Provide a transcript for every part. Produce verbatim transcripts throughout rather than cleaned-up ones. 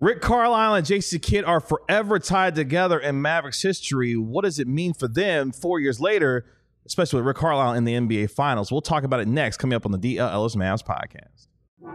Rick Carlisle and Jason Kidd are forever tied together in Mavericks history. What does it mean for them four years later, especially with Rick Carlisle in the N B A Finals? We'll talk about it next, coming up on the D L Ellis Mavs podcast.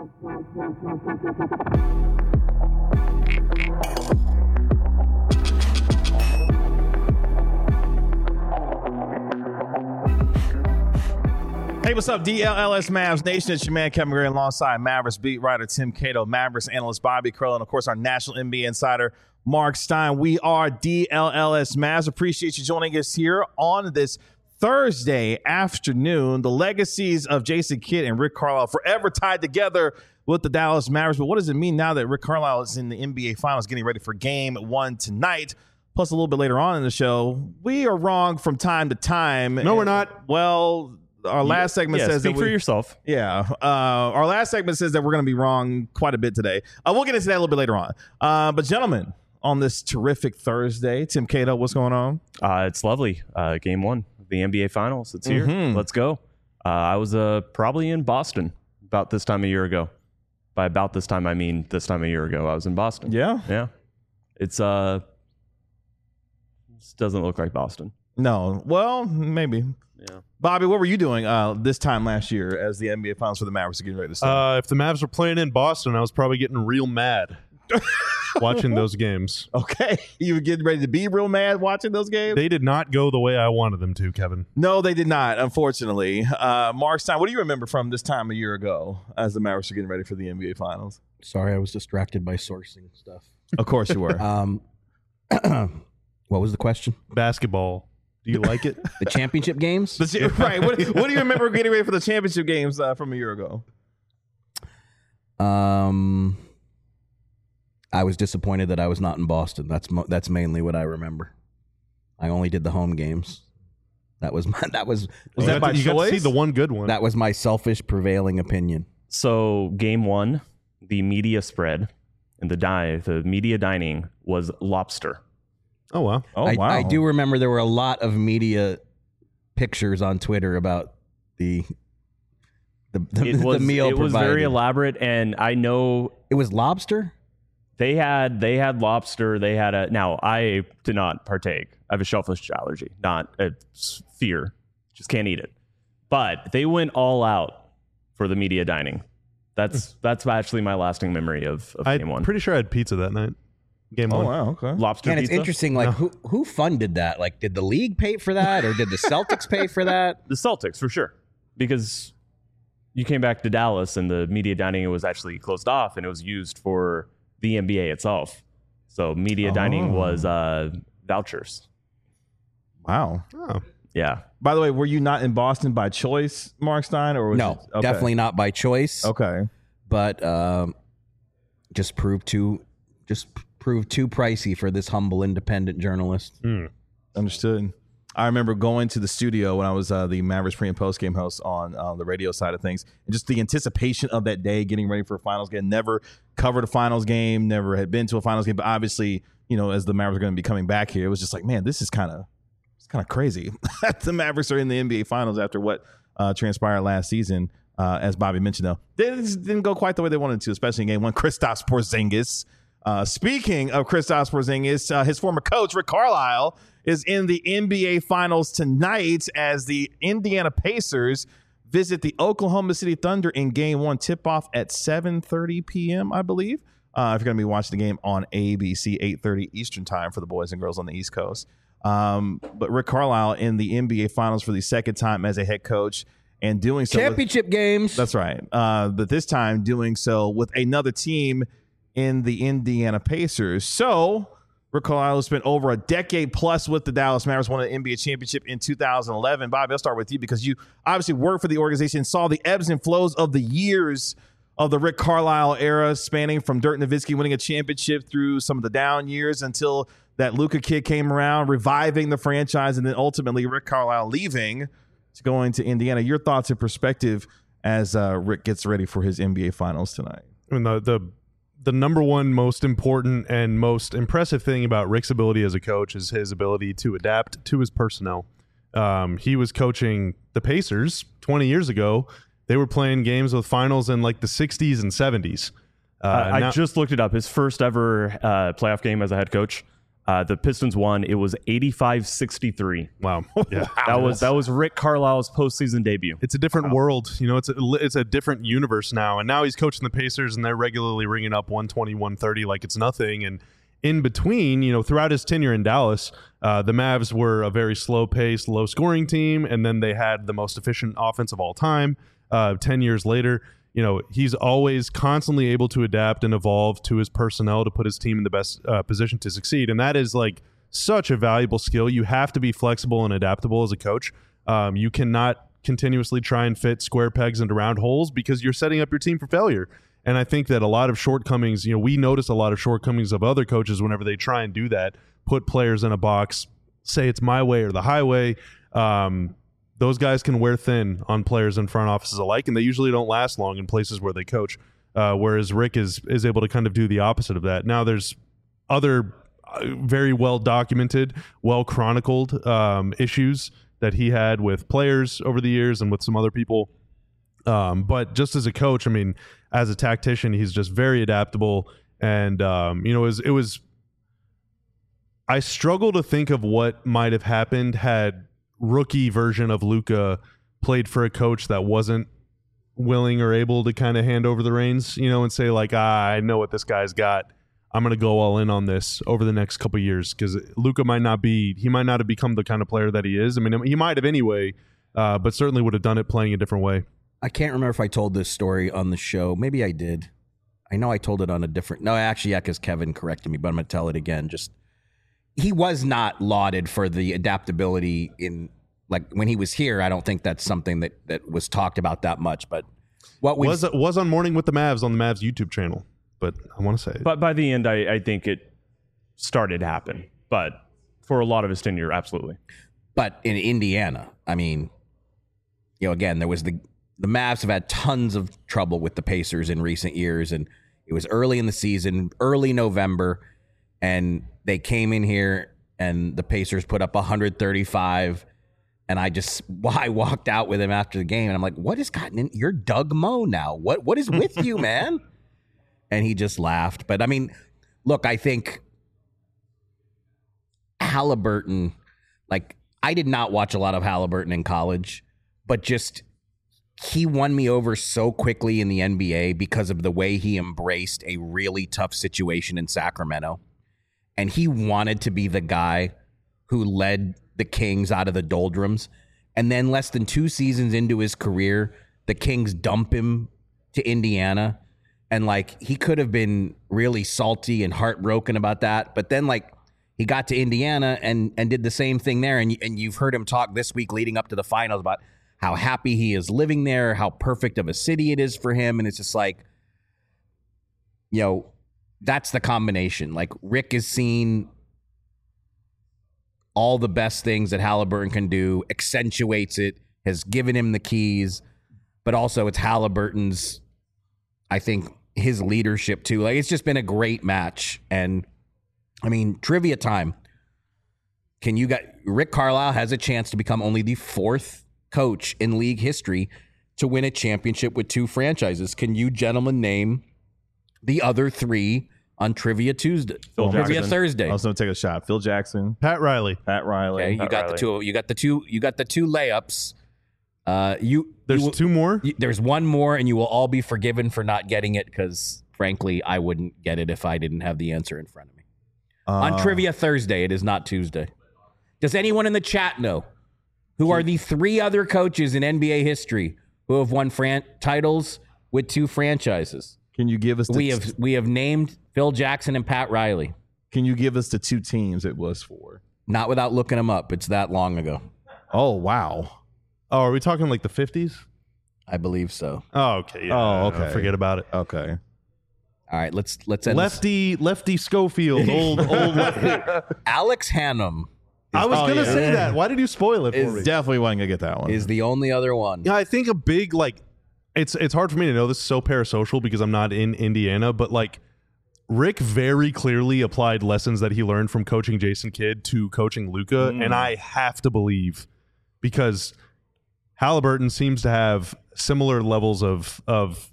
Hey, what's up, D L L S Mavs Nation? It's your man, Kevin Gray, alongside Mavericks beat writer Tim Cato, Mavericks analyst Bobby Curl, and, of course, our national N B A insider, Mark Stein. We are D L L S Mavs. Appreciate you joining us here on this Thursday afternoon. The legacies of Jason Kidd and Rick Carlisle forever tied together with the Dallas Mavericks. But what does it mean now that Rick Carlisle is in the N B A Finals getting ready for game one tonight? Plus, a little bit later on in the show, we are wrong from time to time. No, we're not. Well... Our last segment yeah, says speak that we, for yourself. Yeah. Uh, our last segment says that we're going to be wrong quite a bit today. Uh, we'll get into that a little bit later on. Uh, but gentlemen, on this terrific Thursday, Tim Cato, what's going on? Uh, it's lovely. Uh, game one of the N B A Finals. It's here. Mm-hmm. Let's go. Uh, I was uh, probably in Boston about this time a year ago. By about this time, I mean this time a year ago. I was in Boston. Yeah. Yeah. It's uh, this doesn't look like Boston. No. Well, maybe. Yeah. Bobby, what were you doing uh, this time last year as the N B A Finals for the Mavericks are getting ready to start? Uh, if the Mavs were playing in Boston, I was probably getting real mad watching those games. Okay. You were getting ready to be real mad watching those games? They did not go the way I wanted them to, Kevin. No, they did not, unfortunately. Uh, Mark Stein, what do you remember from this time a year ago as the Mavericks are getting ready for the N B A Finals? Sorry, I was distracted by sourcing stuff. Of course you were. Um, what was the question? Basketball. Do you like it? The championship games? The, right. What, what do you remember getting ready for the championship games uh, from a year ago? Um, I was disappointed that I was not in Boston. That's mo- that's mainly what I remember. I only did the home games. That was my, that was Was you that got by to, you got to choice? see the one good one. that was my selfish prevailing opinion. So game one, the media spread and the die, the media dining was lobster. oh, wow. Oh, I, wow. I do remember there were a lot of media pictures on Twitter about the the, the, It was the meal it was provided. very elaborate, and I know It was lobster? They had they had lobster. They had a. Now I did not partake. I have a shellfish allergy, not a s- fear. Just can't eat it. But they went all out for the media dining. That's that's actually my lasting memory of, of I'm game one. pretty sure I had pizza that night. Game Oh, one. wow. Okay. Lobster And it's pizza. interesting, like, who who funded that? Like, did the league pay for that, or did the Celtics pay for that? The Celtics for sure, because you came back to Dallas and the media dining was actually closed off and it was used for the N B A itself. So media dining Oh. was uh, vouchers. Wow. Oh. Yeah. By the way, were you not in Boston by choice, Mark Stein? Or was No, it, okay. definitely not by choice. Okay. But um, just proved too just proved too pricey for this humble independent journalist. Understood. I remember going to the studio when I was uh, the Mavericks pre and post game host on uh, the radio side of things, and just the anticipation of that day, getting ready for a finals game. Never covered a finals game, never had been to a finals game, but obviously, you know, as the Mavericks are going to be coming back here, it was just like, man, this is kind of it's kind of crazy. The Mavericks are in the N B A Finals after what uh, transpired last season. Uh, as Bobby mentioned, though, they just didn't go quite the way they wanted to, especially in game one. Kristaps Porzingis. Uh, speaking of Kristaps Porzingis, uh, his former coach, Rick Carlisle, is in the N B A Finals tonight as the Indiana Pacers visit the Oklahoma City Thunder in game one. Tip-off at seven thirty p.m., I believe. Uh, if you're going to be watching the game on A B C, eight thirty Eastern time for the boys and girls on the East Coast. Um, but Rick Carlisle in the N B A Finals for the second time as a head coach, and doing so with- Championship games. that's right. Uh, but this time doing so with another team in the Indiana Pacers. So Rick Carlisle spent over a decade plus with the Dallas Mavericks, won an N B A championship in two thousand eleven. Bobby, I'll start with you because you obviously worked for the organization, saw the ebbs and flows of the years of the Rick Carlisle era, spanning from Dirk Nowitzki winning a championship through some of the down years until that Luka kid came around, reviving the franchise, and then ultimately Rick Carlisle leaving to going to Indiana. Your thoughts and perspective as uh, Rick gets ready for his N B A Finals tonight. I mean, the, the the number one most important and most impressive thing about Rick's ability as a coach is his ability to adapt to his personnel. Um, he was coaching the Pacers twenty years ago. They were playing games with finals in like the sixties and seventies. Uh, Uh, I now- just looked it up. His first ever uh, playoff game as a head coach, uh, the Pistons won. It was eighty-five sixty-three. wow, yeah, That was that was Rick Carlisle's postseason debut. it's a different world. You know, it's a, it's a different universe now. And now he's coaching the Pacers, and they're regularly ringing up one twenty, one thirty like it's nothing. And in between, you know, throughout his tenure in Dallas, uh, the Mavs were a very slow-paced, low-scoring team, and then they had the most efficient offense of all time. Uh, Ten years later, you know, he's always constantly able to adapt and evolve to his personnel to put his team in the best uh, position to succeed. And that is like such a valuable skill. You have to be flexible and adaptable as a coach. Um, you cannot continuously try and fit square pegs into round holes because you're setting up your team for failure. And I think that a lot of shortcomings, you know, we notice a lot of shortcomings of other coaches whenever they try and do that, put players in a box, say it's my way or the highway. Um, those guys can wear thin on players in front offices alike, and they usually don't last long in places where they coach. Uh, whereas Rick is is able to kind of do the opposite of that. Now, there's other uh, very well documented, well chronicled um, issues that he had with players over the years and with some other people. Um, but just as a coach, I mean, as a tactician, he's just very adaptable. And, um, you know, it was, it was, I struggle to think of what might have happened had rookie version of Luka played for a coach that wasn't willing or able to kind of hand over the reins, you know, and say like, ah, I know what this guy's got. I'm going to go all in on this over the next couple of years, because Luka might not be, he might not have become the kind of player that he is. I mean, he might have anyway, uh, but certainly would have done it playing a different way. I can't remember if I told this story on the show. Maybe I did. I know I told it on a different... No, actually, yeah, because Kevin corrected me, but I'm going to tell it again. Just he was not lauded for the adaptability in... Like, when he was here, I don't think that's something that, that was talked about that much. But what we Was was on Morning with the Mavs on the Mavs YouTube channel, but I want to say... But by the end, I, I think it started to happen. But for a lot of his tenure, absolutely. But in Indiana, I mean, you know, again, there was the... The Mavs have had tons of trouble with the Pacers in recent years, and it was early in the season, early November, and they came in here, and the Pacers put up one thirty-five, and I just I walked out with him after the game, and I'm like, what has gotten in? You're Doug Moe now. What What is with you, man? And he just laughed. But, I mean, look, I think Halliburton, like, I did not watch a lot of Halliburton in college, but just... he won me over so quickly in the N B A because of the way he embraced a really tough situation in Sacramento. And he wanted to be the guy who led the Kings out of the doldrums. And then less than two seasons into his career, the Kings dump him to Indiana. And, like, he could have been really salty and heartbroken about that. But then, like, he got to Indiana and, and did the same thing there. And, and you've heard him talk this week leading up to the finals about how happy he is living there, how perfect of a city it is for him. And it's just like, you know, that's the combination. Like, Rick has seen all the best things that Halliburton can do, accentuates it, has given him the keys, but also it's Halliburton's, I think, his leadership too. Like, it's just been a great match. And I mean, trivia time. Can you got Rick Carlisle has a chance to become only the fourth coach in league history to win a championship with two franchises. Can you gentlemen name the other three on Trivia Tuesday? Phil Trivia Jackson. Thursday. I was going to take a shot. Phil Jackson, Pat Riley. Pat Riley. Okay, you Pat got Riley. the two. You got the two. You got the two layups. Uh, you There's you will- two more. you- there's one more, and you will all be forgiven for not getting it because, frankly, I wouldn't get it if I didn't have the answer in front of me. on Uh, Trivia Thursday, it is not Tuesday. Does anyone in the chat know who are the three other coaches in N B A history who have won fran- titles with two franchises? Can you give us the We have we have named Phil Jackson and Pat Riley. Can you give us the two teams it was for? Not without looking them up. It's that long ago. Oh wow. Oh, are we talking like the fifties? I believe so. Oh, okay. Yeah, Oh, no, okay. Forget about it. Okay. All right, let's let's end this. Lefty, Lefty Schofield, old, old Lefty. Alex Hannum I was oh, gonna yeah. say that. Why did you spoil it for Is me? Definitely wasn't gonna get that one. is the only other one. Yeah, I think a big like it's it's hard for me to know. This is so parasocial because I'm not in Indiana, but like Rick very clearly applied lessons that he learned from coaching Jason Kidd to coaching Luka, Mm. and I have to believe because Halliburton seems to have similar levels of of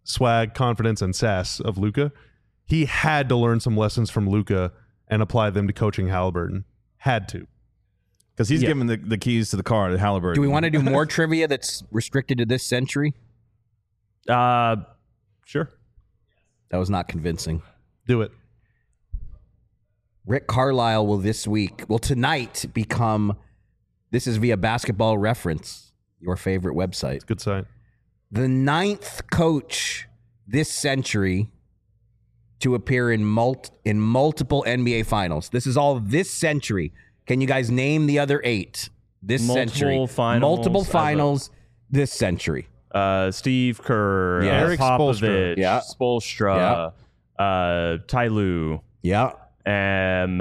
swag, confidence, and sass of Luka. He had to learn some lessons from Luka and apply them to coaching Halliburton. Had to. Because he's Yeah. giving the, the keys to the car to Halliburton. Do we want to do more trivia that's restricted to this century? Uh, sure. That was not convincing. Do it. Rick Carlisle will this week, will tonight become, this is via Basketball Reference, your favorite website, Good sign. the ninth coach this century to appear in mul- in multiple N B A finals. This is all this century. Can you guys name the other eight this Multiple century? finals Multiple as a- finals this century. Uh, Steve Kerr, Yeah. uh, Eric Popovich, Spoelstra. Yeah. Spoelstra, uh, Ty Lue, Yeah. um,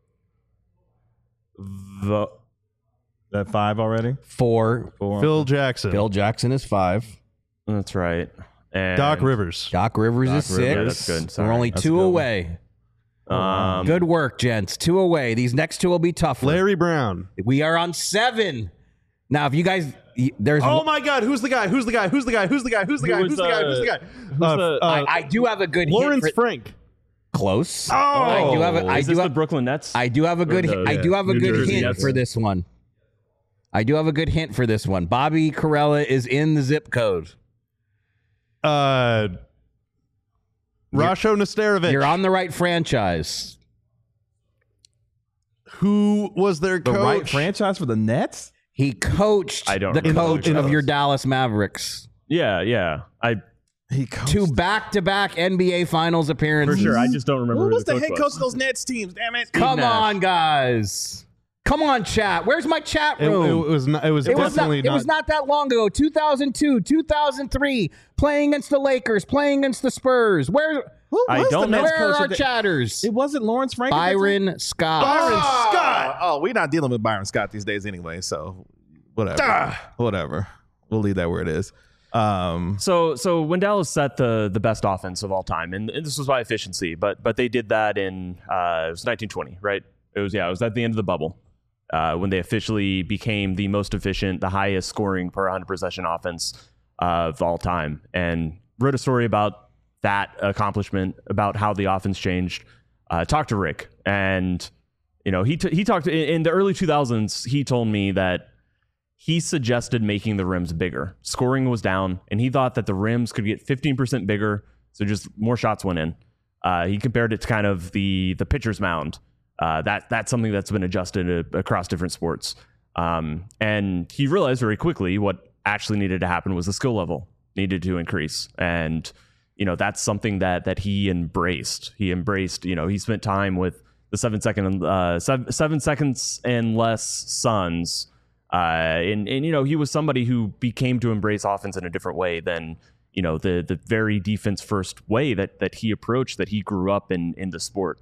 the, that five already? Four. Four. Phil Jackson. Phil Jackson is five. that's right. And, Doc Rivers. Doc Rivers Doc is six. Rivers. Yeah, that's good. We're Sorry. only That's two a good away. Um, Good work, gents. Two away. These next two will be tougher. Larry Brown. We are on seven. Now, if you guys, y- there's. Oh my God! Who's the guy? Who's the guy? Who's the guy? Who's the guy? Who's the Who guy? was, Who's the guy? Who's the guy? who's Uh, the- uh, I, I do have a good Lawrence hint for, Frank. close. Oh, I do have a, I is do this the have, Brooklyn Nets? I do have a good. the- I do have a New good Jersey hint Nets? for this one. I do have a good hint for this one. Bobby Carella is in the zip code. uh, Rasho Nesterovic. You're on the right franchise. Who was their The coach? right franchise for the Nets? He coached I don't the remember coach who of coached. your Dallas Mavericks. yeah, yeah. I He coached. Two back-to-back N B A Finals for appearances. sure. I just don't remember. Who who was the coach head was. coach of those Nets teams? Damn it. Come Nash. on, guys. Come on, chat. Where's my chat It, it room? was not, it was It was, not, definitely it was not that long ago. two thousand two, two thousand three, playing against the Lakers, playing against the Spurs. Where, Who I was don't the know. Nets where coach are our at the- chatters? It wasn't Lawrence Frank. at that time? Byron Scott. Byron Scott. Oh, we're not dealing with Byron Scott these days anyway, so whatever. Whatever. We'll leave that where it is. Um, So, so when Dallas set the the best offense of all time, and, and this was by efficiency, but but they did that in uh, it was nineteen twenty, right? It was yeah, it was at the end of the bubble uh, when they officially became the most efficient, the highest scoring per one hundred possession offense uh, of all time, and wrote a story about that accomplishment, about how the offense changed. Uh, talked to Rick, and you know he t- he talked in, in the early two thousands. He told me that he suggested making the rims bigger. Scoring was down, and he thought that the rims could get fifteen percent bigger, so just more shots went in. Uh, he compared it to kind of the the pitcher's mound. Uh, that that's something that's been adjusted uh, across different sports. Um, and he realized very quickly what actually needed to happen was the skill level needed to increase. And you know that's something that that he embraced. He embraced. You know, he spent time with the seven second uh, seven, seven seconds and less Suns. Uh, and, and, you know, he was somebody who became to embrace offense in a different way than, you know, the the very defense first way that that he approached, that he grew up in in the sport.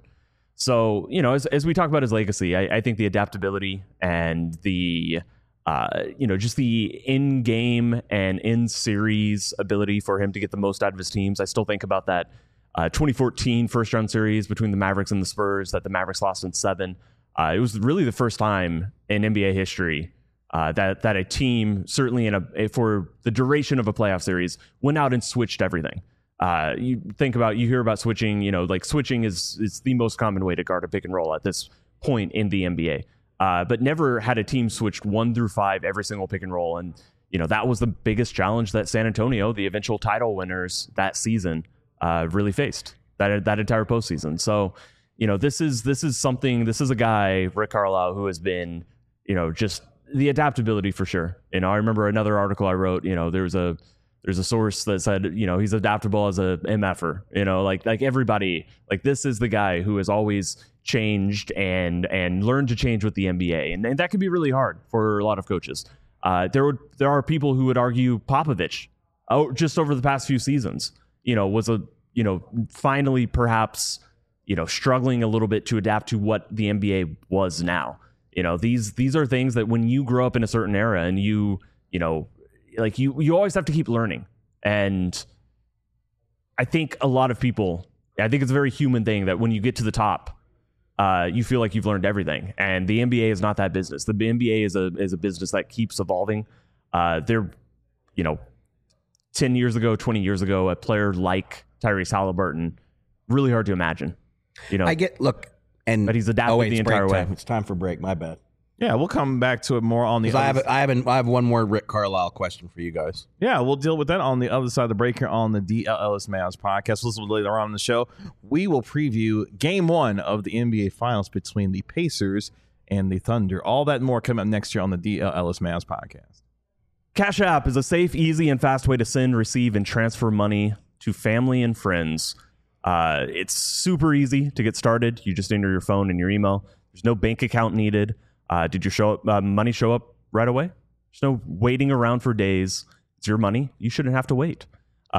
So, you know, as, as we talk about his legacy, I, I think the adaptability and the, uh, you know, just the in-game and in-series ability for him to get the most out of his teams. I still think about that uh, twenty fourteen first-round series between the Mavericks and the Spurs that the Mavericks lost in seven. Uh, it was really the first time in N B A history Uh, that that a team, certainly in a for the duration of a playoff series, went out and switched everything. Uh, you think about, you hear about switching, you know, like switching is is the most common way to guard a pick and roll at this point in the N B A. Uh, but never had a team switched one through five every single pick and roll, and you know that was the biggest challenge that San Antonio, the eventual title winners that season, uh, really faced that that entire postseason. So, you know, this is this is something. This is a guy, Rick Carlisle, who has been, you know, just the adaptability for sure. You know, I remember another article I wrote, you know, there's a, there's a source that said, you know, he's adaptable as a M F-er, you know, like, like everybody, like this is the guy who has always changed and, and learned to change with the N B A. And, and that can be really hard for a lot of coaches. Uh, there would, there are people who would argue Popovich, oh, just over the past few seasons, you know, was a, you know, finally perhaps, you know, struggling a little bit to adapt to what the N B A was now. You know, these these are things that when you grow up in a certain era and you, you know, like you you always have to keep learning. And I think a lot of people, I think it's a very human thing that when you get to the top, uh, you feel like you've learned everything. And the N B A is not that business. The N B A is a is a business that keeps evolving. Uh, they're, you know, ten years ago, twenty years ago, a player like Tyrese Halliburton, really hard to imagine. You know, I get look and but he's adapted oh, wait, the it's entire break way. time. It's time for break. My bad. Yeah, we'll come back to it more on the. Because I other have, a, I have, an, I have one more Rick Carlisle question for you guys. Yeah, we'll deal with that on the other side of the break here on the D L Ellis Mavs podcast. We'll listen later on in the show. We will preview game one of the N B A Finals between the Pacers and the Thunder. All that and more coming up next year on the D L Ellis Mavs podcast. Cash App is a safe, easy, and fast way to send, receive, and transfer money to family and friends. Uh, it's super easy to get started. You just enter your phone and your email. There's no bank account needed. Uh, did your show up, uh, money show up right away? There's no waiting around for days. It's your money. You shouldn't have to wait.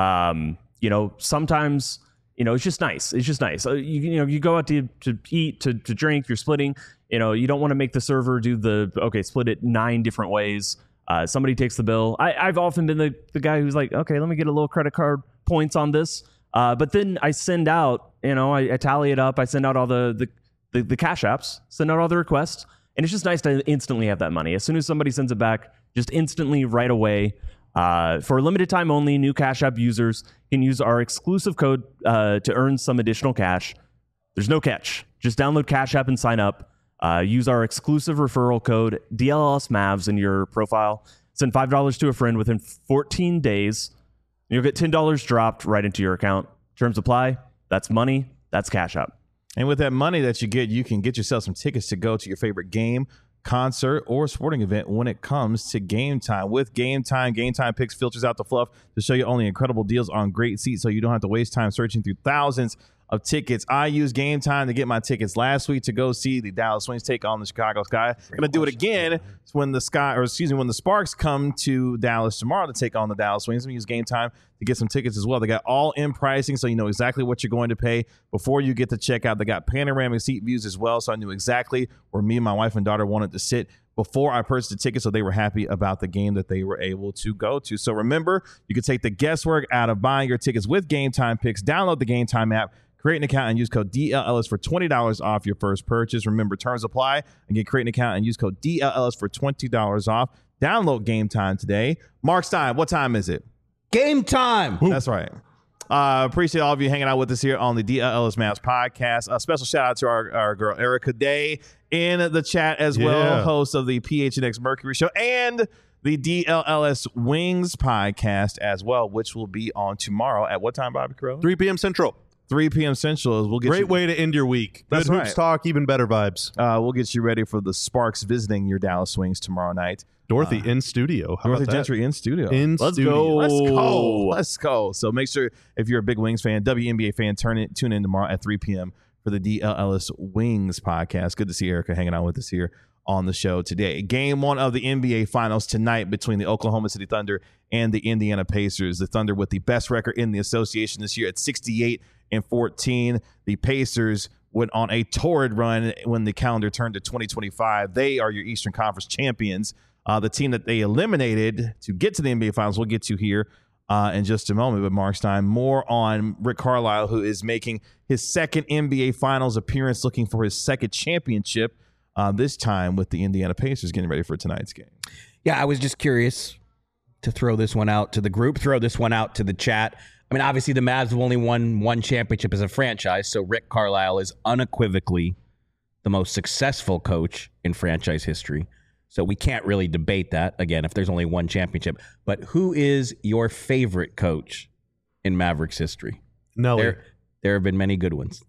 Um, you know, sometimes, you know, it's just nice. It's just nice. Uh, you, you know, you go out to, to eat, to, to drink, you're splitting. You know, you don't want to make the server do the, okay, split it nine different ways. Uh, somebody takes the bill. I, I've often been the, the guy who's like, okay, let me get a little credit card points on this. Uh, but then I send out, you know, I, I tally it up. I send out all the, the, the, the cash apps, send out all the requests. And it's just nice to instantly have that money. As soon as somebody sends it back, just instantly right away. Uh, for a limited time only, new Cash App users can use our exclusive code uh, to earn some additional cash. There's no catch. Just download Cash App and sign up. Uh, use our exclusive referral code D L L S Mavs in your profile. Send five dollars to a friend within fourteen days. You'll get ten dollars dropped right into your account. Terms apply. That's money. That's Cash App. And with that money that you get, you can get yourself some tickets to go to your favorite game, concert, or sporting event when it comes to Game Time. With Game Time, Game Time Picks filters out the fluff to show you only incredible deals on great seats so you don't have to waste time searching through thousands of tickets. I used Game Time to get my tickets last week to go see the Dallas Wings take on the Chicago Sky. I'm going to do it again when the Sky, or excuse me, when the Sparks come to Dallas tomorrow to take on the Dallas Wings. I'm going to use Game Time to get some tickets as well. They got all in pricing, so you know exactly what you're going to pay before you get to checkout. They got panoramic seat views as well, so I knew exactly where me and my wife and daughter wanted to sit before I purchased the ticket, so they were happy about the game that they were able to go to. So remember, you can take the guesswork out of buying your tickets with Game Time Picks. Download the Game Time app, create an account, and use code D L L S for twenty dollars off your first purchase. Remember, terms apply. Again, create an account and use code D L L S for twenty dollars off. Download Game Time today. Mark Stein, what time is it? Game time. That's right. Uh, appreciate all of you hanging out with us here on the D L L S Mavs podcast. A special shout out to our, our girl Erica Day in the chat as well, Yeah. host of the P H N X Mercury Show and the D L L S Wings podcast as well, which will be on tomorrow at what time, Bobby Crow? three p.m. Central. three p.m. Central. We'll get Great you, way to end your week. That's Good hoops right. talk, even better vibes. Uh, we'll get you ready for the Sparks visiting your Dallas Wings tomorrow night. Dorothy in studio. How Dorothy about that? Gentry in studio. In Let's studio. go. Let's go. Let's go. So make sure if you're a big Wings fan, W N B A fan, turn it, tune in tomorrow at three p.m. for the D L L S Wings podcast. Good to see Erica hanging out with us here on the show today. Game one of the N B A Finals tonight between the Oklahoma City Thunder and the Indiana Pacers. The Thunder with the best record in the association this year at sixty-eight and fourteen. The Pacers went on a torrid run when the calendar turned to twenty twenty-five. They are your Eastern Conference champions. Uh, the team that they eliminated to get to the N B A Finals, we'll get to here uh, in just a moment. But Mark Stein, more on Rick Carlisle, who is making his second N B A Finals appearance, looking for his second championship, uh, this time with the Indiana Pacers getting ready for tonight's game. Yeah, I was just curious to throw this one out to the group, throw this one out to the chat. I mean, obviously the Mavs have only won one championship as a franchise, so Rick Carlisle is unequivocally the most successful coach in franchise history. So we can't really debate that, again, if there's only one championship. But who is your favorite coach in Mavericks history? Nelly. There, there have been many good ones.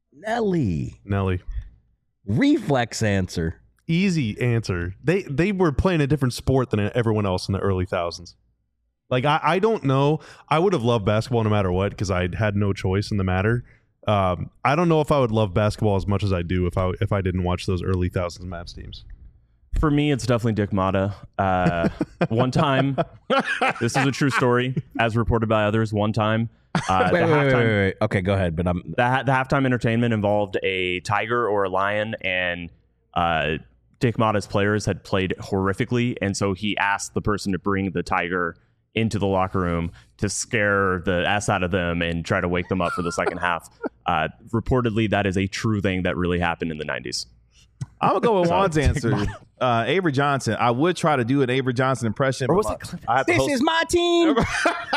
Nelly. Nelly. Reflex answer. Easy answer. They they were playing a different sport than everyone else in the early thousands. Like, I, I don't know. I would have loved basketball no matter what because I had no choice in the matter. Um, I don't know if I would love basketball as much as I do if I if I didn't watch those early thousands Mavs teams. For me, it's definitely Dick Motta. Uh, one time, this is a true story, as reported by others. One time, uh, Wait, the, wait, wait, halftime, wait, wait. Okay, go ahead. But I'm the, ha- the halftime entertainment involved a tiger or a lion, and uh, Dick Motta's players had played horrifically, and so he asked the person to bring the tiger into the locker room to scare the ass out of them and try to wake them up for the second half. Uh, reportedly, that is a true thing that really happened in the nineties. I'm going to go with Juan's answer. Uh, Avery Johnson. I would try to do an Avery Johnson impression. Or but was my- it Cliff? I have to this host- is my team.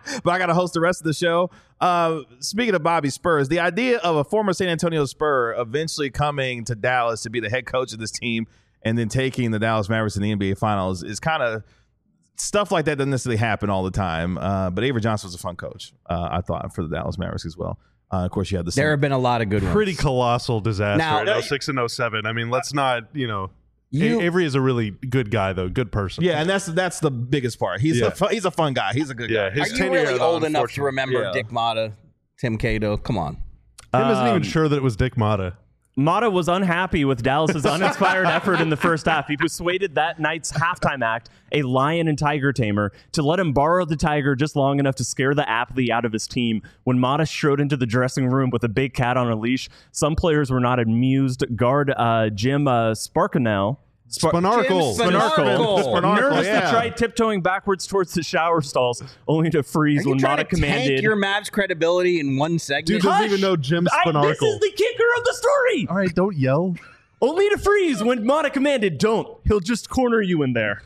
but I got to host the rest of the show. Uh, speaking of Bobby Spurs, the idea of a former San Antonio Spur eventually coming to Dallas to be the head coach of this team and then taking the Dallas Mavericks in the N B A Finals is kind of stuff like that doesn't necessarily happen all the time. Uh, but Avery Johnson was a fun coach, uh, I thought, for the Dallas Mavericks as well. Uh, of course, you had the There have been a lot of good ones. Pretty colossal disaster Now- in oh six and oh seven. I mean, let's not, you know. You- A- Avery is a really good guy, though. Good person. Yeah, and that's that's the biggest part. He's Yeah. a fu- he's a fun guy. He's a good Yeah, guy. his Are you tenure really at old enough to unfortunate- remember Yeah. Dick Motta, Tim Cato? Come on. Tim isn't Um, even sure that it was Dick Motta. Mata was unhappy with Dallas's uninspired effort in the first half. He persuaded that night's halftime act, a lion and tiger tamer, to let him borrow the tiger just long enough to scare the athlete out of his team. When Mata strode into the dressing room with a big cat on a leash, some players were not amused. Guard uh, Jim uh, Sparkinell Spar- Spanarkel. Jim Spanarkel. Spanarkel. Nervous yeah. to try tiptoeing backwards towards the shower stalls, only to freeze Are you when trying Mata to commanded. tank your Mavs credibility in one segment? Dude doesn't Hush! even know Jim I, Spanarkel. this is the kicker of the story. All right, don't yell. Only to freeze when Mata commanded, "Don't." He'll just corner you in there.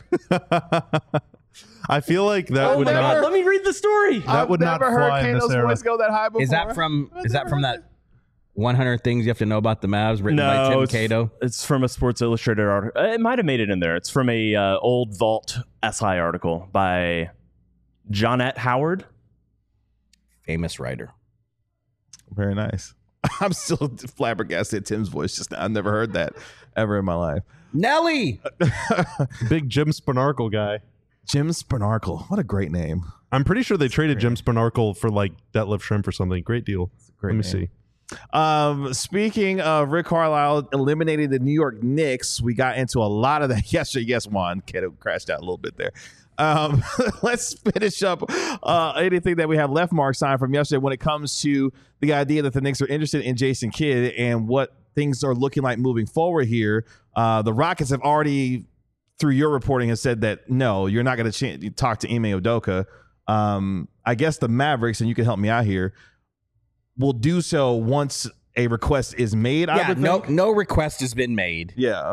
I feel like that Oh would my God, not. let me read the story. That would not fly in this era. go that high before. Is that from is that from that one hundred things you have to know about the Mavs written by No, Tim it's, Cato? it's from a Sports Illustrated article. It might have made it in there. It's from a uh, old Vault S I article by Jonette Howard. Famous writer. Very nice. I'm still flabbergasted at Tim's voice just now. I've never heard that ever in my life. Nelly. Big Jim Spanarkel guy. Jim Spanarkel. What a great name. I'm pretty sure they traded Jim Spanarkel for like Detlef Shrimp or something. Great deal. Great Let me name. see. Um, speaking of Rick Carlisle eliminating the New York Knicks, we got into a lot of that yesterday. Yes, Juan Keto crashed out a little bit there. Um, let's finish up uh, anything that we have left, Mark, signed from yesterday when it comes to the idea that the Knicks are interested in Jason Kidd and what things are looking like moving forward here. Uh, the Rockets have already, through your reporting, has said that no, you're not going to ch- talk to Ime Udoka. Um, I guess the Mavericks, and you can help me out here, will do so once a request is made. I Yeah, would no think. no request has been made, Yeah.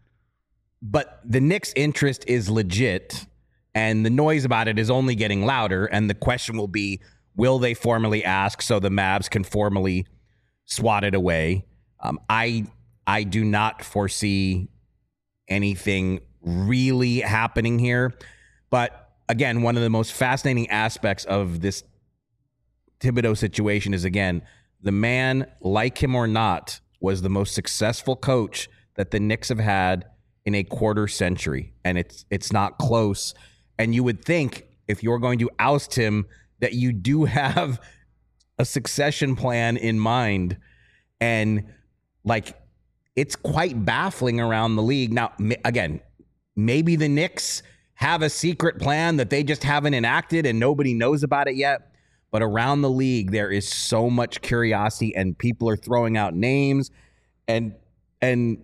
but the Knicks' interest is legit, and the noise about it is only getting louder. And the question will be, will they formally ask so the Mavs can formally swat it away? Um, I I do not foresee anything really happening here. But again, one of the most fascinating aspects of this Thibodeau situation is, again, the man, like him or not, was the most successful coach that the Knicks have had in a quarter century, and it's it's not close. And you would think if you're going to oust him that you do have a succession plan in mind. And like, it's quite baffling around the league. Now, m- again, maybe the Knicks have a secret plan that they just haven't enacted and nobody knows about it yet. But around the league, there is so much curiosity and people are throwing out names, and and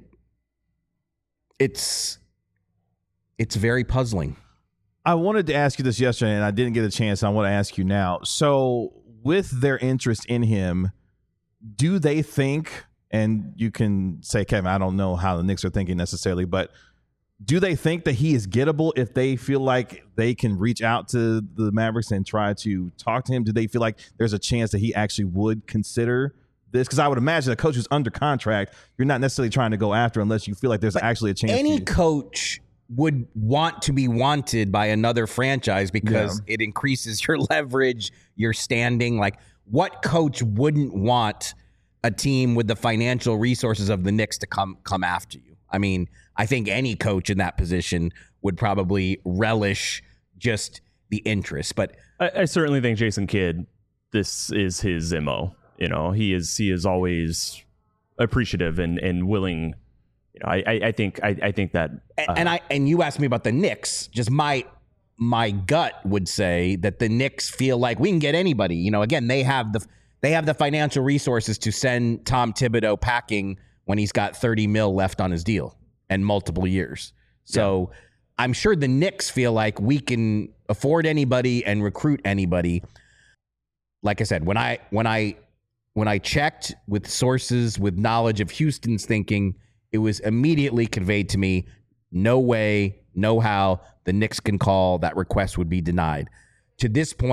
it's it's very puzzling. I wanted to ask you this yesterday, and I didn't get a chance. And I want to ask you now. So, with their interest in him, do they think, and you can say, Kevin, I don't know how the Knicks are thinking necessarily, but do they think that he is gettable if they feel like they can reach out to the Mavericks and try to talk to him? Do they feel like there's a chance that he actually would consider this? Because I would imagine a coach who's under contract, you're not necessarily trying to go after unless you feel like there's But actually a chance. Any to, coach would want to be wanted by another franchise because it increases your leverage, your standing. Like, what coach wouldn't want a team with the financial resources of the Knicks to come come after you? I mean, I think any coach in that position would probably relish just the interest. But I, I certainly think Jason Kidd, this is his M O. You know, he is he is always appreciative and, and willing. You know, I, I, I think I, I think that and, uh, and I and you asked me about the Knicks. Just my my gut would say that the Knicks feel like we can get anybody. You know, again, they have the they have the financial resources to send Tom Thibodeau packing when he's got thirty mil left on his deal and multiple years. So yeah. I'm sure the Knicks feel like we can afford anybody and recruit anybody. Like I said, when I when I when I checked with sources with knowledge of Houston's thinking, it was immediately conveyed to me, no way, no how the Knicks can call, that request would be denied. To this point,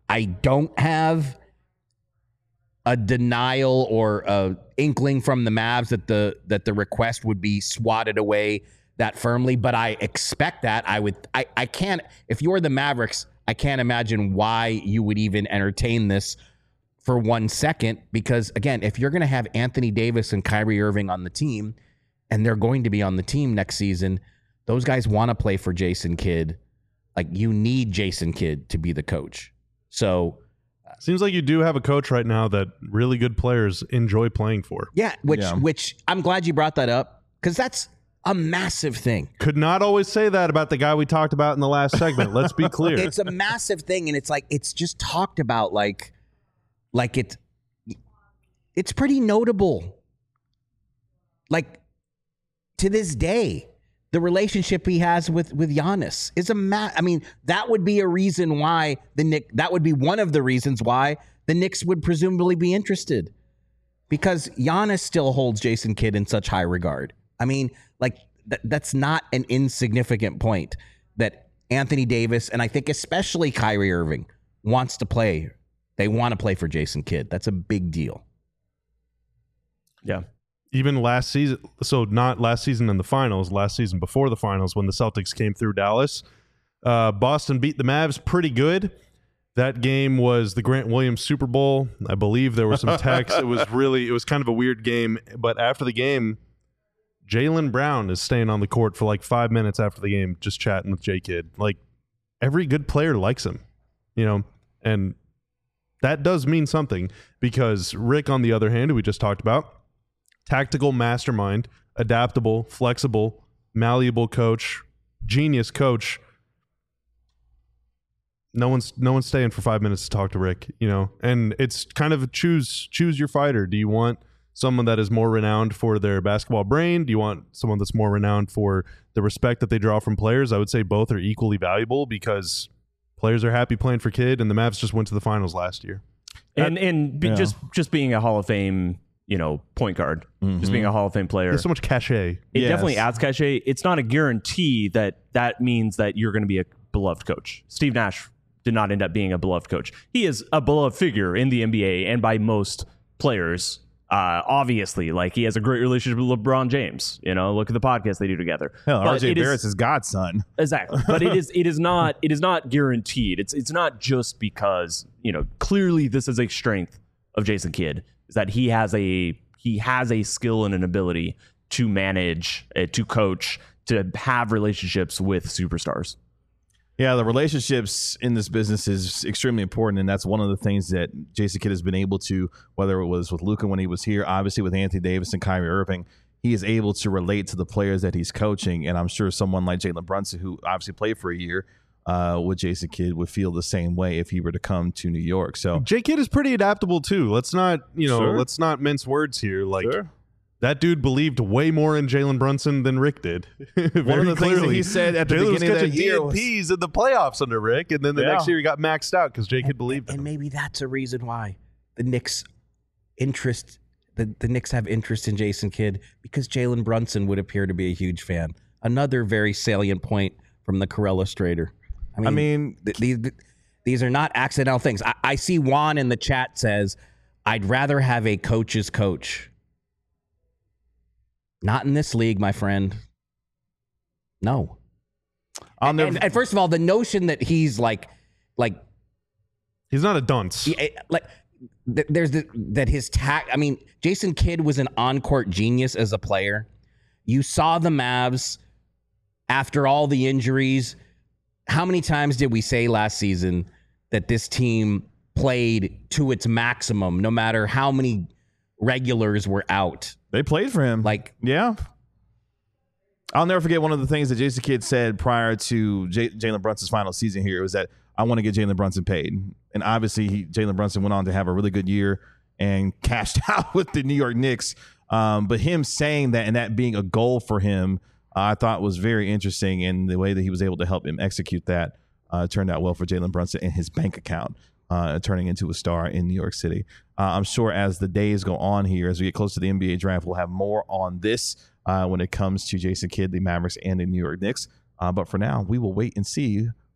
I don't have a denial or a inkling from the Mavs that the that the request would be swatted away that firmly, but I expect that. I would I, I can't if you're the Mavericks, I can't imagine why you would even entertain this for one second, because again, if you're going to have Anthony Davis and Kyrie Irving on the team, and they're going to be on the team next season, those guys want to play for Jason Kidd. Like, you need Jason Kidd to be the coach. So seems like you do have a coach right now that really good players enjoy playing for. yeah, which Yeah. which I'm glad you brought that up, because that's a massive thing. Could not always say that about the guy we talked about in the last segment. Let's be clear. It's a massive thing, and it's like it's just talked about like like it it's pretty notable. Like, to this day, the relationship he has with with Giannis is a ma- I mean, that would be a reason why the Knicks, that would be one of the reasons why the Knicks would presumably be interested, because Giannis still holds Jason Kidd in such high regard. I mean, like th- that's not an insignificant point that Anthony Davis, and I think especially Kyrie Irving, wants to play. They want to play for Jason Kidd. That's a big deal. Yeah. Even last season, so not last season in the finals, last season before the finals when the Celtics came through Dallas, uh, Boston beat the Mavs pretty good. That game was the Grant Williams Super Bowl. I believe there were some texts. It was really, it was kind of a weird game. But after the game, Jaylen Brown is staying on the court for like five minutes after the game, just chatting with J Kidd. Like, every good player likes him, you know, and that does mean something, because Rick, on the other hand, who we just talked about, tactical mastermind, adaptable, flexible, malleable coach, genius coach. No one's no one's staying for five minutes to talk to Rick, you know. And it's kind of choose choose your fighter. Do you want someone that is more renowned for their basketball brain? Do you want someone that's more renowned for the respect that they draw from players? I would say both are equally valuable, because players are happy playing for Kidd, and the Mavs just went to the finals last year. And and be, yeah. just just being a Hall of Fame, you know, point guard, just being a Hall of Fame player. There's so much cachet. It Yes. definitely adds cachet. It's not a guarantee that that means that you're going to be a beloved coach. Steve Nash did not end up being a beloved coach. He is a beloved figure in the N B A and by most players. Uh, obviously, like, he has a great relationship with LeBron James. You know, look at the podcast they do together. Hell, But R J it is- Barrett's his godson. Exactly. But it is it is not it is not guaranteed. It's it's not just because, you know, clearly this is a strength of Jason Kidd, is that he has a he has a skill and an ability to manage, uh, to coach, to have relationships with superstars. Yeah, the relationships in this business is extremely important, and that's one of the things that Jason Kidd has been able to, whether it was with Luka when he was here, obviously with Anthony Davis and Kyrie Irving, he is able to relate to the players that he's coaching, and I'm sure someone like Jalen Brunson, who obviously played for a year uh, with Jason Kidd, would feel the same way if he were to come to New York. So J Kidd is pretty adaptable too. Let's not, you know, Sure. let's not mince words here. Like, Sure. that dude believed way more in Jalen Brunson than Rick did. One of the things that he said at the Jalen was beginning of that catching year was- D N Ps in the playoffs under Rick, and then the Yeah. next year he got maxed out because J Kidd believed And him. maybe that's a reason why the Knicks interest the, the Knicks have interest in Jason Kidd, because Jalen Brunson would appear to be a huge fan. Another very salient point from the Carell Illustrator. I mean, I mean, th- these th- these are not accidental things. I, I see Juan in the chat says, "I'd rather have a coach's coach." Not in this league, my friend. No. I'll And, never. and, and first of all, the notion that he's like, like He's not a dunce. Yeah, like th- there's the, that his tact. I mean, Jason Kidd was an on-court genius as a player. You saw the Mavs after all the injuries. How many times did we say last season that this team played to its maximum, no matter how many regulars were out? They played for him. Like, yeah. I'll never forget one of the things that Jason Kidd said prior to J- Jalen Brunson's final season here was that I want to get Jalen Brunson paid. And obviously, he, Jalen Brunson went on to have a really good year and cashed out with the New York Knicks. Um, but him saying that and that being a goal for him, uh, I thought was very interesting. And the way that he was able to help him execute that uh, turned out well for Jalen Brunson in his bank account, uh, turning into a star in New York City. Uh, I'm sure as the days go on here, as we get close to the N B A draft, we'll have more on this uh, when it comes to Jason Kidd, the Mavericks, and the New York Knicks. Uh, but for now, we will wait and see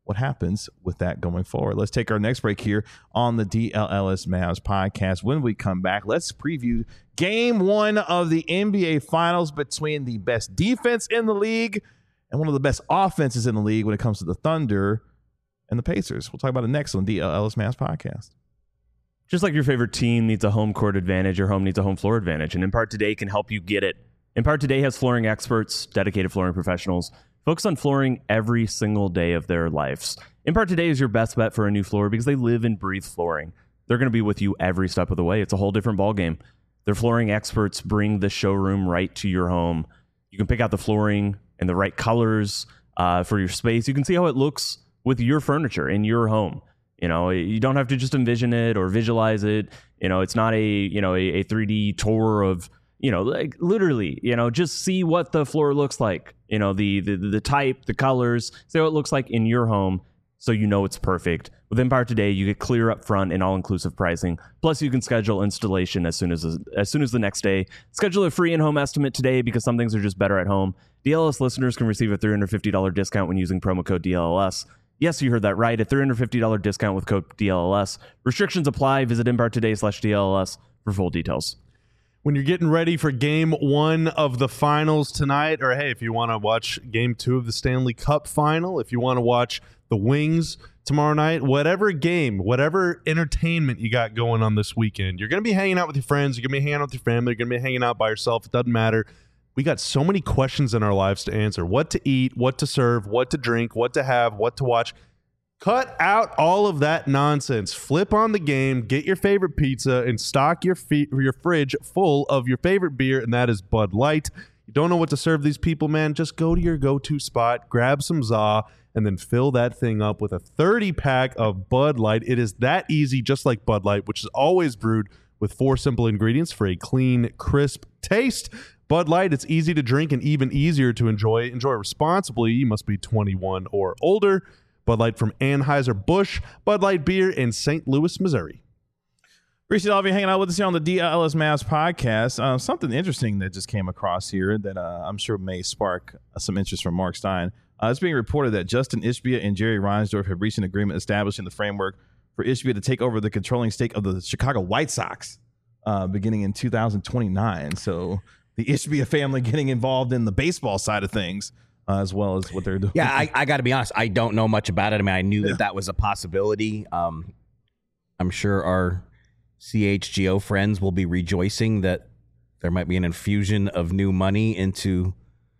what happens with that going forward. Let's take our next break here on the D L L S Mavs podcast. When we come back, let's preview game one of the N B A Finals between the best defense in the league and one of the best offenses in the league when it comes to the Thunder and the Pacers. We'll talk about it next on D L L S Mavs podcast. Just like your favorite team needs a home court advantage, your home needs a home floor advantage, and Impart Today can help you get it. Impart Today has flooring experts, dedicated flooring professionals, focus on flooring every single day of their lives. Impart Today is your best bet for a new floor because they live and breathe flooring. They're going to be with you every step of the way. It's a whole different ballgame. Their flooring experts bring the showroom right to your home. You can pick out the flooring and the right colors uh, for your space. You can see how it looks with your furniture in your home. You know, you don't have to just envision it or visualize it. You know, it's not a, you know, a, a three D tour of, you know, like literally, you know, just see what the floor looks like. You know, the the the type, the colors, see what it looks like in your home so you know it's perfect. With Empire Today, you get clear up front and all-inclusive pricing. Plus, you can schedule installation as soon as as soon as the next day. Schedule a free in-home estimate today because some things are just better at home. D L S listeners can receive a three hundred fifty dollars discount when using promo code D L L S. Yes, you heard that right. A three hundred fifty dollars discount with code D L L S. Restrictions apply. Visit Empire Today slash D L L S for full details. When you're getting ready for game one of the finals tonight, or hey, if you want to watch game two of the Stanley Cup final, if you want to watch the Wings tomorrow night, whatever game, whatever entertainment you got going on this weekend, you're going to be hanging out with your friends, you're going to be hanging out with your family, you're going to be hanging out by yourself. It doesn't matter. We got so many questions in our lives to answer. What to eat, what to serve, what to drink, what to have, what to watch. Cut out all of that nonsense. Flip on the game, get your favorite pizza, and stock your feet, your fridge full of your favorite beer, and that is Bud Light. You don't know what to serve these people, man? Just go to your go-to spot, grab some za, and then fill that thing up with a thirty-pack of Bud Light. It is that easy, just like Bud Light, which is always brewed with four simple ingredients for a clean, crisp taste. Bud Light, it's easy to drink and even easier to enjoy. Enjoy responsibly. You must be twenty-one or older. Bud Light from Anheuser-Busch, Bud Light beer in Saint Louis, Missouri. Appreciate all of you hanging out with us here on the D L S Mavs podcast. Uh, something interesting that just came across here that uh, I'm sure may spark uh, some interest from Mark Stein. Uh, it's being reported that Justin Ishbia and Jerry Reinsdorf have reached an agreement establishing the framework for Ishbia to take over the controlling stake of the Chicago White Sox uh, beginning in two thousand twenty-nine. So the Ishbia family getting involved in the baseball side of things. Uh, as well as what they're doing. Yeah, I, I got to be honest. I don't know much about it. I mean, I knew yeah. that that was a possibility. Um, I'm sure our C H G O friends will be rejoicing that there might be an infusion of new money into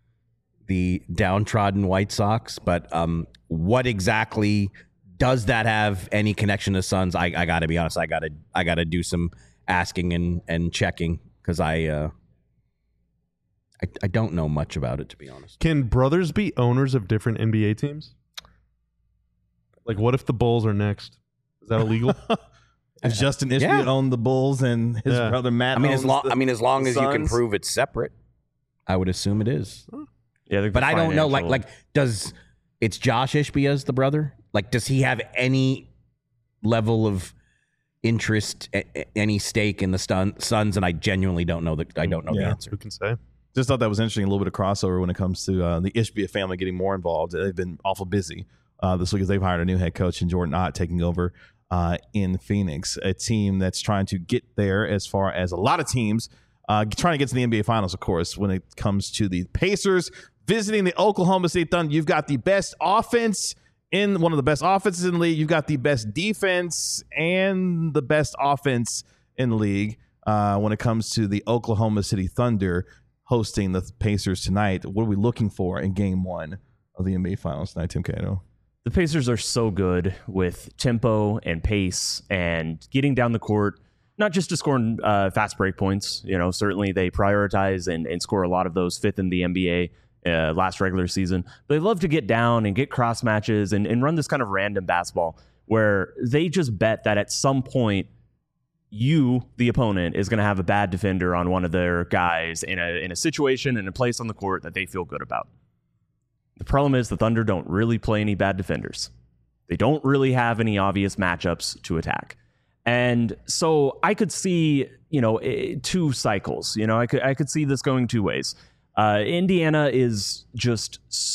the downtrodden White Sox. But um, what exactly does that have any connection to Suns? I, I got to be honest. I got to I got to do some asking and, and checking because I. Uh, I, I don't know much about it, to be honest. Can brothers be owners of different N B A teams? Like, what if the Bulls are next? Is that illegal? If Justin Ishbia yeah. owned the Bulls and his yeah. brother Matt I mean, owns as long, the, I mean, as long as Suns? You can prove it's separate, I would assume it is. Yeah, but I don't know. Like, like, does it's Josh Ishbia as the brother? Like, does he have any level of interest, any stake in the stun, Suns? And I genuinely don't know. The, I don't know yeah. the answer. Who can say? Just thought that was interesting. A little bit of crossover when it comes to uh, the Ishbia family getting more involved. They've been awful busy uh, this week as they've hired a new head coach and Jordan Ott taking over uh, in Phoenix, a team that's trying to get there as far as a lot of teams uh, trying to get to the N B A Finals, of course, when it comes to the Pacers visiting the Oklahoma City Thunder. You've got the best offense in one of the best offenses in the league. You've got the best defense and the best offense in the league uh, when it comes to the Oklahoma City Thunder hosting the Pacers tonight. What are we looking for in game one of the N B A Finals tonight, Tim Cato? The Pacers are so good with tempo and pace and getting down the court, not just to score uh, fast break points. You know, certainly they prioritize and, and score a lot of those fifth in the N B A uh, last regular season. But they love to get down and get cross matches and, and run this kind of random basketball where they just bet that at some point you, the opponent, is going to have a bad defender on one of their guys in a in a situation and a place on the court that they feel good about. The problem is the Thunder don't really play any bad defenders. They don't really have any obvious matchups to attack. And so I could see, you know, two cycles. You know, I could I could see this going two ways. Uh, Indiana is just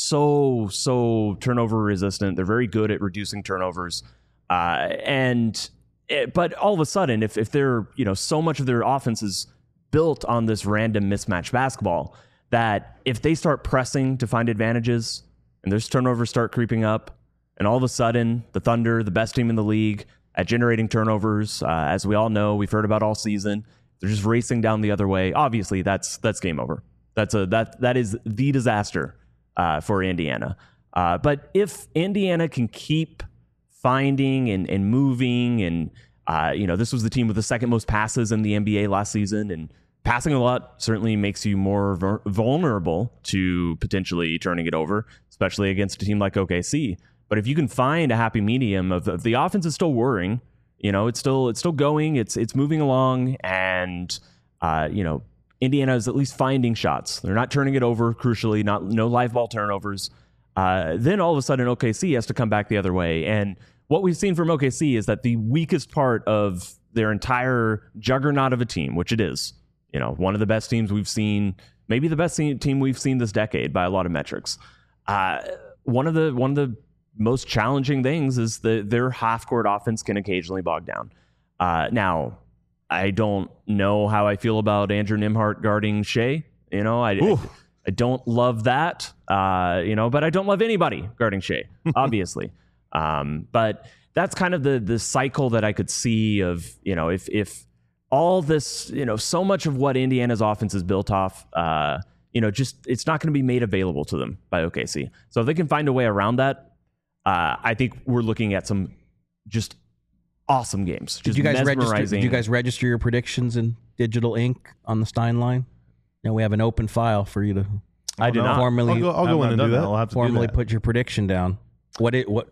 so, so turnover resistant. They're very good at reducing turnovers. Uh, and, it, but all of a sudden, if, if they're, you know, so much of their offense is built on this random mismatch basketball that if they start pressing to find advantages and there's turnovers start creeping up, and all of a sudden the Thunder, the best team in the league at generating turnovers, uh, as we all know, we've heard about all season, they're just racing down the other way. Obviously, that's that's game over. That's a that that is the disaster uh, for Indiana. Uh, but if Indiana can keep finding and, and moving, and uh, you know, this was the team with the second most passes in the N B A last season, and passing a lot certainly makes you more ver- vulnerable to potentially turning it over, especially against a team like O K C. But if you can find a happy medium of, of the offense is still worrying, you know, it's still it's still going, it's it's moving along, and uh, you know. Indiana is at least finding shots. They're not turning it over, crucially, not no live ball turnovers. Uh, then all of a sudden, O K C has to come back the other way. And what we've seen from O K C is that the weakest part of their entire juggernaut of a team, which it is, you know, one of the best teams we've seen, maybe the best team we've seen this decade by a lot of metrics. Uh, one of the one of the most challenging things is that their half-court offense can occasionally bog down. Uh, now. I don't know how I feel about Andrew Nembhard guarding Shea. You know, I, I, I don't love that, uh, you know, but I don't love anybody guarding Shea, obviously. um, but that's kind of the the cycle that I could see of, you know, if if all this, you know, so much of what Indiana's offense is built off, uh, you know, just it's not going to be made available to them by O K C. So if they can find a way around that, uh, I think we're looking at some just awesome games. Just did you guys register? mesmerizing. Did you guys register your predictions in digital ink on the Stein line? Now we have an open file for you to. I did no. not. Formally, I'll go, I'll go in and do that. I'll have to formally do that. put your prediction down. What it what?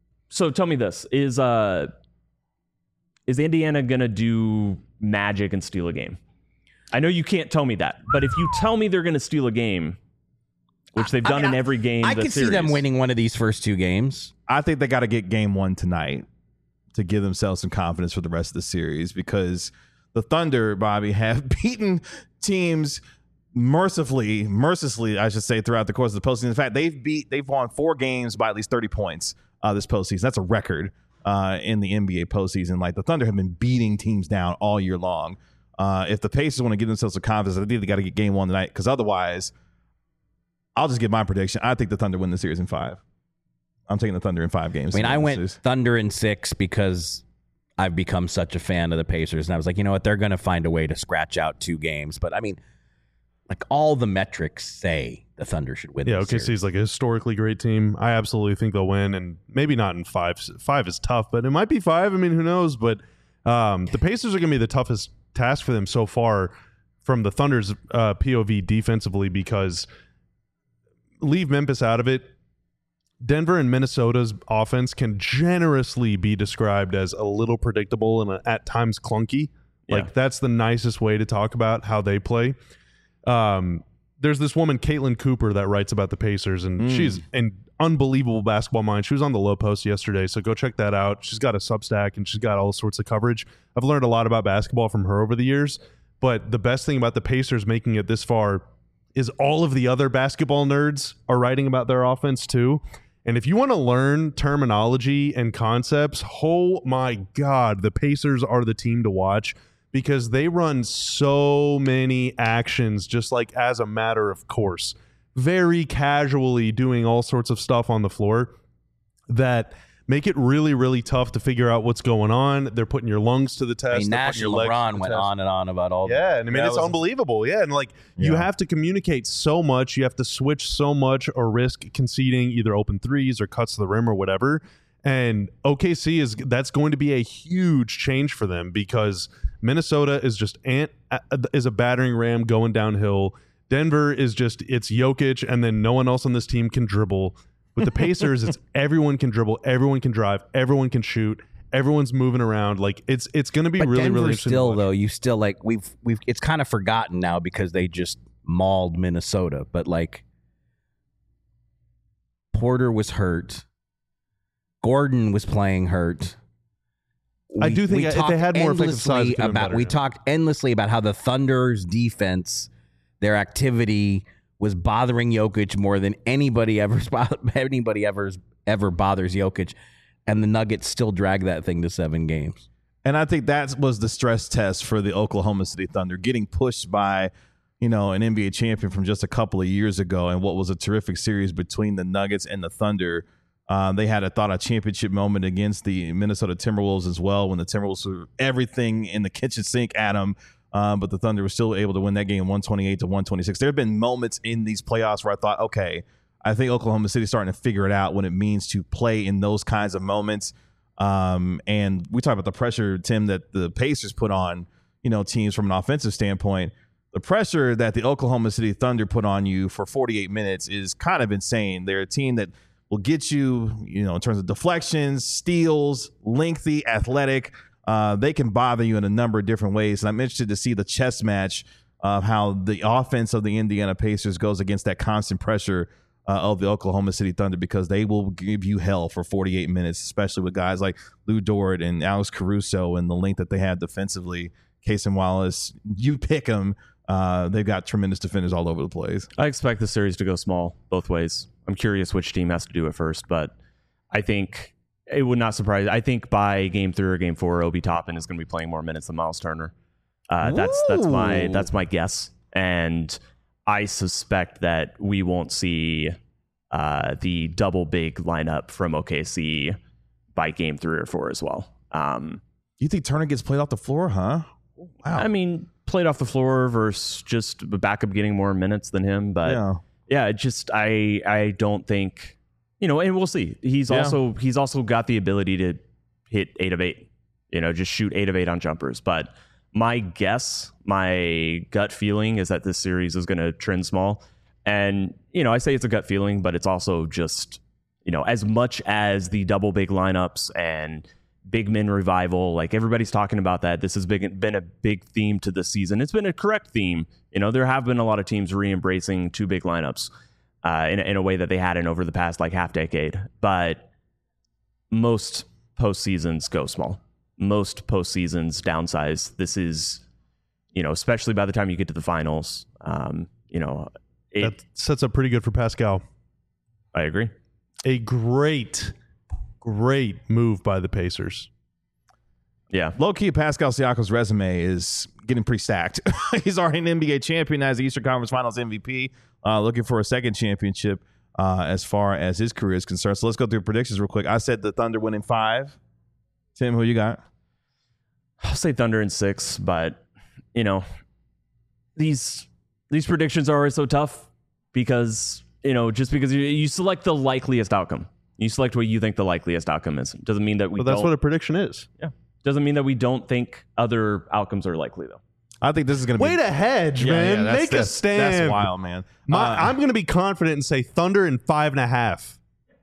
So tell me this: is uh, is Indiana gonna do magic and steal a game? I know you can't tell me that, but if you tell me they're gonna steal a game, which they've I done mean, in every game, I the can see series, them winning one of these first two games. I think they got to get game one tonight to give themselves some confidence for the rest of the series, because the Thunder, Bobby, have beaten teams mercifully, mercilessly, I should say, throughout the course of the postseason. In fact, they've beat, they've won four games by at least thirty points uh, this postseason. That's a record uh, in the N B A postseason. Like, the Thunder have been beating teams down all year long. Uh, if the Pacers want to give themselves some confidence, I think they got to get game one tonight, because otherwise, I'll just give my prediction. I think the Thunder win the series in five. I'm taking the Thunder in five games. I mean, I went Thunder in six because I've become such a fan of the Pacers, and I was like, you know what, they're going to find a way to scratch out two games. But I mean, like, all the metrics say the Thunder should win. Yeah, this O K C series. is like a historically great team. I absolutely think they'll win, and maybe not in five. Five is tough, but it might be five. I mean, who knows? But um, the Pacers are going to be the toughest task for them so far from the Thunder's uh, P O V defensively, because leave Memphis out of it. Denver and Minnesota's offense can generously be described as a little predictable and at times clunky. Like, Yeah. that's the nicest way to talk about how they play. Um, there's this woman, Caitlin Cooper, that writes about the Pacers, and Mm. she's an unbelievable basketball mind. She was on the Low Post yesterday, so go check that out. She's got a Substack, and she's got all sorts of coverage. I've learned a lot about basketball from her over the years, but the best thing about the Pacers making it this far is all of the other basketball nerds are writing about their offense too. And if you want to learn terminology and concepts, oh my God, the Pacers are the team to watch, because they run so many actions just like as a matter of course, very casually doing all sorts of stuff on the floor that make it really, really tough to figure out what's going on. They're putting your lungs to the test. I mean, They're Nash putting and your legs to LeBron the went test. on and on about all. Yeah, and I mean, That it's was- unbelievable. Yeah, and like, you Yeah. have to communicate so much. You have to switch so much or risk conceding either open threes or cuts to the rim or whatever. And O K C is that's going to be a huge change for them, because Minnesota is just ant is a battering ram going downhill. Denver is just it's Jokic, and then no one else on this team can dribble. With the Pacers, it's everyone can dribble, everyone can drive, everyone can shoot. Everyone's moving around. Like, it's it's going to be But really, Denver really interesting. still, to watch. though, you still like we've we've it's kind of forgotten now because they just mauled Minnesota. But like, Porter was hurt, Gordon was playing hurt. I We- do think we if they talked had more effective size, endlessly it could've been about better, we yeah. talked endlessly about how the Thunder's defense, their activity was bothering Jokic more than anybody ever anybody ever ever bothers Jokic, and the Nuggets still drag that thing to seven games. And I think that was the stress test for the Oklahoma City Thunder, getting pushed by, you know, an N B A champion from just a couple of years ago, and what was a terrific series between the Nuggets and the Thunder. Um, they had, I thought, a championship moment against the Minnesota Timberwolves as well, when the Timberwolves were everything in the kitchen sink at them. Um, but the Thunder was still able to win that game one twenty-eight to one twenty-six. There have been moments in these playoffs where I thought, okay, I think Oklahoma City's starting to figure it out what it means to play in those kinds of moments. Um, and we talk about the pressure, Tim, that the Pacers put on, you know, teams from an offensive standpoint. The pressure that the Oklahoma City Thunder put on you for forty-eight minutes is kind of insane. They're a team that will get you, you know, in terms of deflections, steals, lengthy, athletic. Uh, they can bother you in a number of different ways. And I'm interested to see the chess match of how the offense of the Indiana Pacers goes against that constant pressure uh, of the Oklahoma City Thunder, because they will give you hell for forty-eight minutes, especially with guys like Lou Dort and Alex Caruso and the length that they have defensively. Cason Wallace, you pick them. Uh, they've got tremendous defenders all over the place. I expect the series to go small both ways. I'm curious which team has to do it first, but I think it would not surprise. I think by game three or game four, Obi Toppin is going to be playing more minutes than Miles Turner. Uh, that's that's my that's my guess, and I suspect that we won't see uh, the double big lineup from O K C by game three or four as well. Um, You think Turner gets played off the floor, huh? Wow. I mean, played off the floor versus just a backup getting more minutes than him, but. Yeah. Yeah, just I I don't think, you know, and we'll see. He's Yeah. also he's also got the ability to hit eight of eight, you know, just shoot eight of eight on jumpers. But my guess, my gut feeling is that this series is going to trend small. And, you know, I say it's a gut feeling, but it's also just, you know, as much as the double big lineups and big men revival, like everybody's talking about that. This has been, been a big theme to this season. It's been a correct theme. You know, there have been a lot of teams re-embracing two big lineups uh, in, in a way that they hadn't over the past like half decade. But most postseasons go small. Most postseasons downsize. This is, you know, especially by the time you get to the finals, um, you know, it, That sets up pretty good for Pascal. I agree. A great, great move by the Pacers. Yeah. Low-key, Pascal Siakam's resume is getting pretty stacked. He's already an N B A champion as the Eastern Conference Finals M V P, uh, looking for a second championship uh, as far as his career is concerned. So let's go through predictions real quick. I said the Thunder win in five. Tim, who you got? I'll say Thunder in six, but, you know, these these predictions are always so tough because, you know, just because you, you select the likeliest outcome. You select what you think the likeliest outcome is. Doesn't mean that we But that's don't. what a prediction is. Yeah. Doesn't mean that we don't think other outcomes are likely, though. I think this is going to be... Way to hedge, Yeah, man. yeah, that's- Make a that's- stand. That's wild, man. My, Uh, I'm going to be confident and say Thunder in five and a half.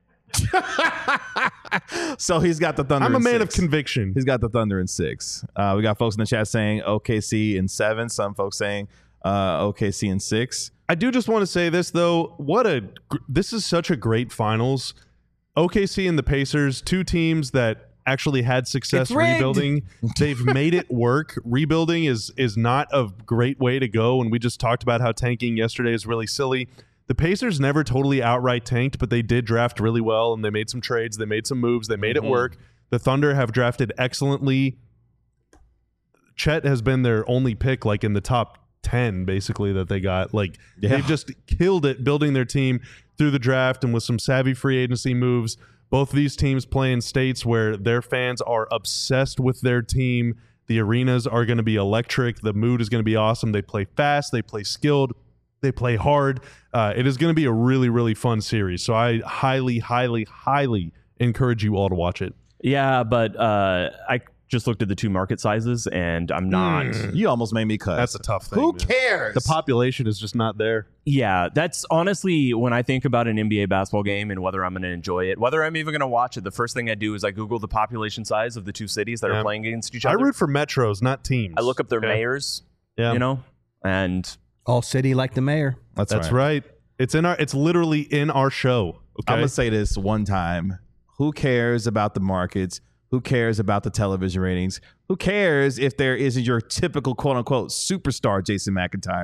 so he's got the Thunder I'm a in man six. of conviction. He's got the Thunder in six. Uh, we got folks in the chat saying O K C in seven. Some folks saying uh, O K C in six. I do just want to say this, though. What a gr- this is such a great finals. O K C and the Pacers, two teams that actually had success It's rigged. rebuilding. They've made it work. Rebuilding is is not a great way to go, and we just talked about how tanking yesterday is really silly. The Pacers never totally outright tanked, but they did draft really well, and they made some trades. They made some moves. They made Mm-hmm. it work. The Thunder have drafted excellently. Chet has been their only pick, like in the top ten, basically, that they got. Like Yeah. they've just killed it building their team through the draft and with some savvy free agency moves. Both of these teams play in states where their fans are obsessed with their team. The arenas are going to be electric. The mood is going to be awesome. They play fast. They play skilled. They play hard. Uh, it is going to be a really, really fun series. So I highly, highly, highly encourage you all to watch it. Yeah, but uh, I just looked at the two market sizes, and I'm not. You almost made me cuss. That's a tough thing. Who man. cares? The population is just not there. Yeah, that's honestly when I think about an N B A basketball game and whether I'm going to enjoy it, whether I'm even going to watch it. The first thing I do is I Google the population size of the two cities that Yeah. are playing against each I other. root for metros, not teams. I look up their Okay? mayors, Yeah. you know, and All city like the mayor. That's, That's right. right. It's in our. It's literally in our show. Okay. I'm going to say this one time. Who cares about the markets? Who cares about the television ratings? Who cares if there isn't your typical quote unquote superstar Jason McIntyre?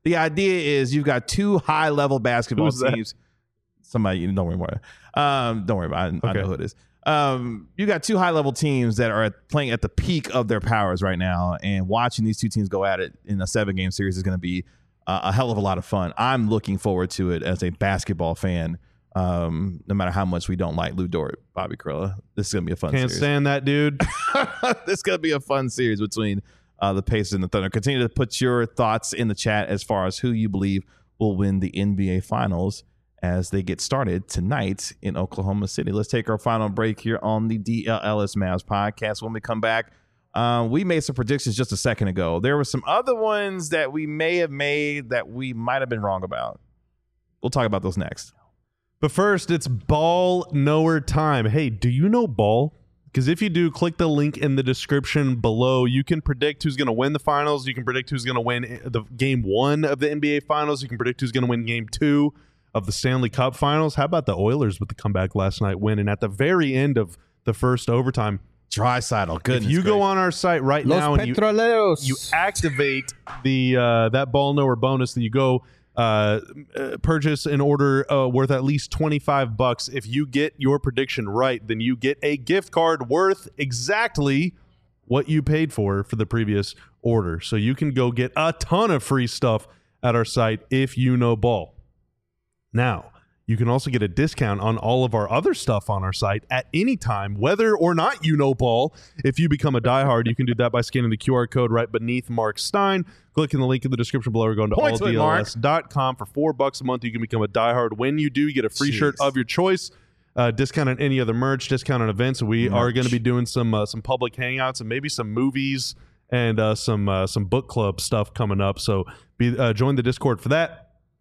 The idea is you've got two high level basketball Who's that? teams. Somebody, you don't worry about it. Um, don't worry about it. I, Okay. I know who it is. Um, you got two high level teams that are at, playing at the peak of their powers right now, and watching these two teams go at it in a seven game series is going to be uh, a hell of a lot of fun. I'm looking forward to it as a basketball fan. Um, no matter how much we don't like Lou Dort, Bobby Carrillo, this is going to be a fun Can't series. stand that dude. This is going to be a fun series between uh, the Pacers and the Thunder. Continue to put your thoughts in the chat as far as who you believe will win the N B A Finals as they get started tonight in Oklahoma City. Let's take our final break here on the D L L S Mavs podcast. When we come back, uh, we made some predictions just a second ago. There were some other ones that we may have made that we might have been wrong about. We'll talk about those next. But first, it's ball knower time. Hey, do you know ball? Because if you do, click the link in the description below. You can predict who's going to win the finals. You can predict who's going to win the game one of the N B A Finals. You can predict who's going to win game two of the Stanley Cup Finals. How about the Oilers with the comeback last night winning at the very end of the first overtime? Dreisaitl, goodness If you go gracious. on our site right Los now and you, Petroleros. you activate the uh, that ball knower bonus, that you go uh, uh, purchase an order uh, worth at least twenty-five bucks. If you get your prediction right, then you get a gift card worth exactly what you paid for for the previous order. So you can go get a ton of free stuff at our site if you know ball. Now, you can also get a discount on all of our other stuff on our site at any time, whether or not you know ball. If you become a diehard, you can do that by scanning the Q R code right beneath Mark Stein, clicking the link in the description below, or going to all Points with D L S dot com for four bucks a month. You can become a diehard. When you do, you get a free Jeez. shirt of your choice, uh, discount on any other merch, discount on events. We are Merch. going to be doing some uh, some public hangouts and maybe some movies and uh, some uh, some book club stuff coming up. So be uh, join the Discord for that.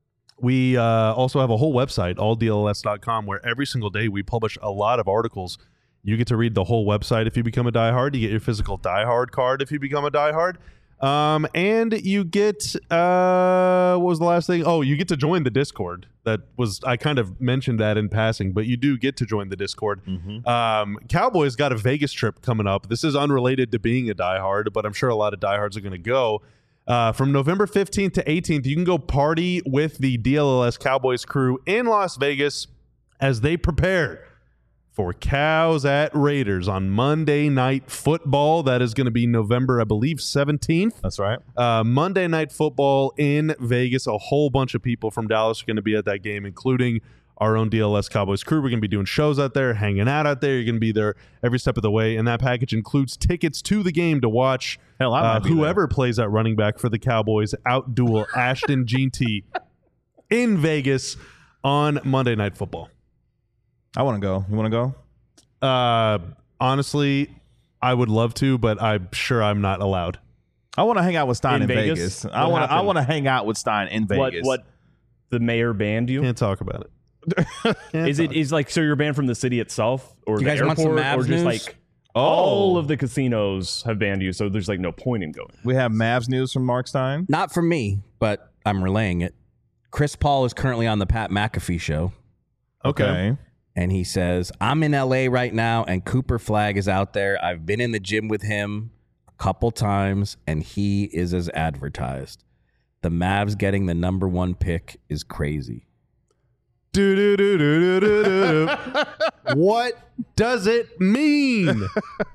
We uh, also have a whole website, all D L S dot com, where every single day we publish a lot of articles. You get to read the whole website if you become a diehard. You get your physical diehard card if you become a diehard. Um, and you get, uh, what was the last thing? Oh, you get to join the Discord. That was, I kind of mentioned that in passing, but you do get to join the Discord. Um, Cowboys got a Vegas trip coming up. This is unrelated to being a diehard, but I'm sure a lot of diehards are going to go. Uh, from November fifteenth to eighteenth, you can go party with the D L L S Cowboys crew in Las Vegas as they prepare for Cows at Raiders on Monday Night Football. That is going to be November, I believe, seventeenth. That's right. Uh, Monday Night Football in Vegas. A whole bunch of people from Dallas are going to be at that game, including our own D L S Cowboys crew. We're going to be doing shows out there, hanging out out there. You're going to be there every step of the way, and that package includes tickets to the game to watch Hell, I might uh, be whoever plays at running back for the Cowboys outduel Ashton Jeanty in Vegas on Monday Night Football. I want to go. You want to go? Uh, honestly, I would love to, but I'm sure I'm not allowed. I want to hang out with Stein in, In Vegas. Vegas? I What want. to. I happened? want to hang out with Stein in What Vegas. what the mayor banned you? Can't talk about it. Can't Is it talk. is like so you're banned from the city itself or You the guys airport want some Mavs or just news? like Oh. all of the casinos have banned you, so there's like no point in going. We have Mavs news from Mark Stein. Not from me, but I'm relaying it. Chris Paul is currently on the Pat McAfee show, Okay. and he says, I'm in L A right now, and Cooper Flag is out there. I've been in the gym with him a couple times, and he is as advertised. The Mavs getting the number one pick is crazy. Do, do, do, do, do, do, do, do. What does it mean?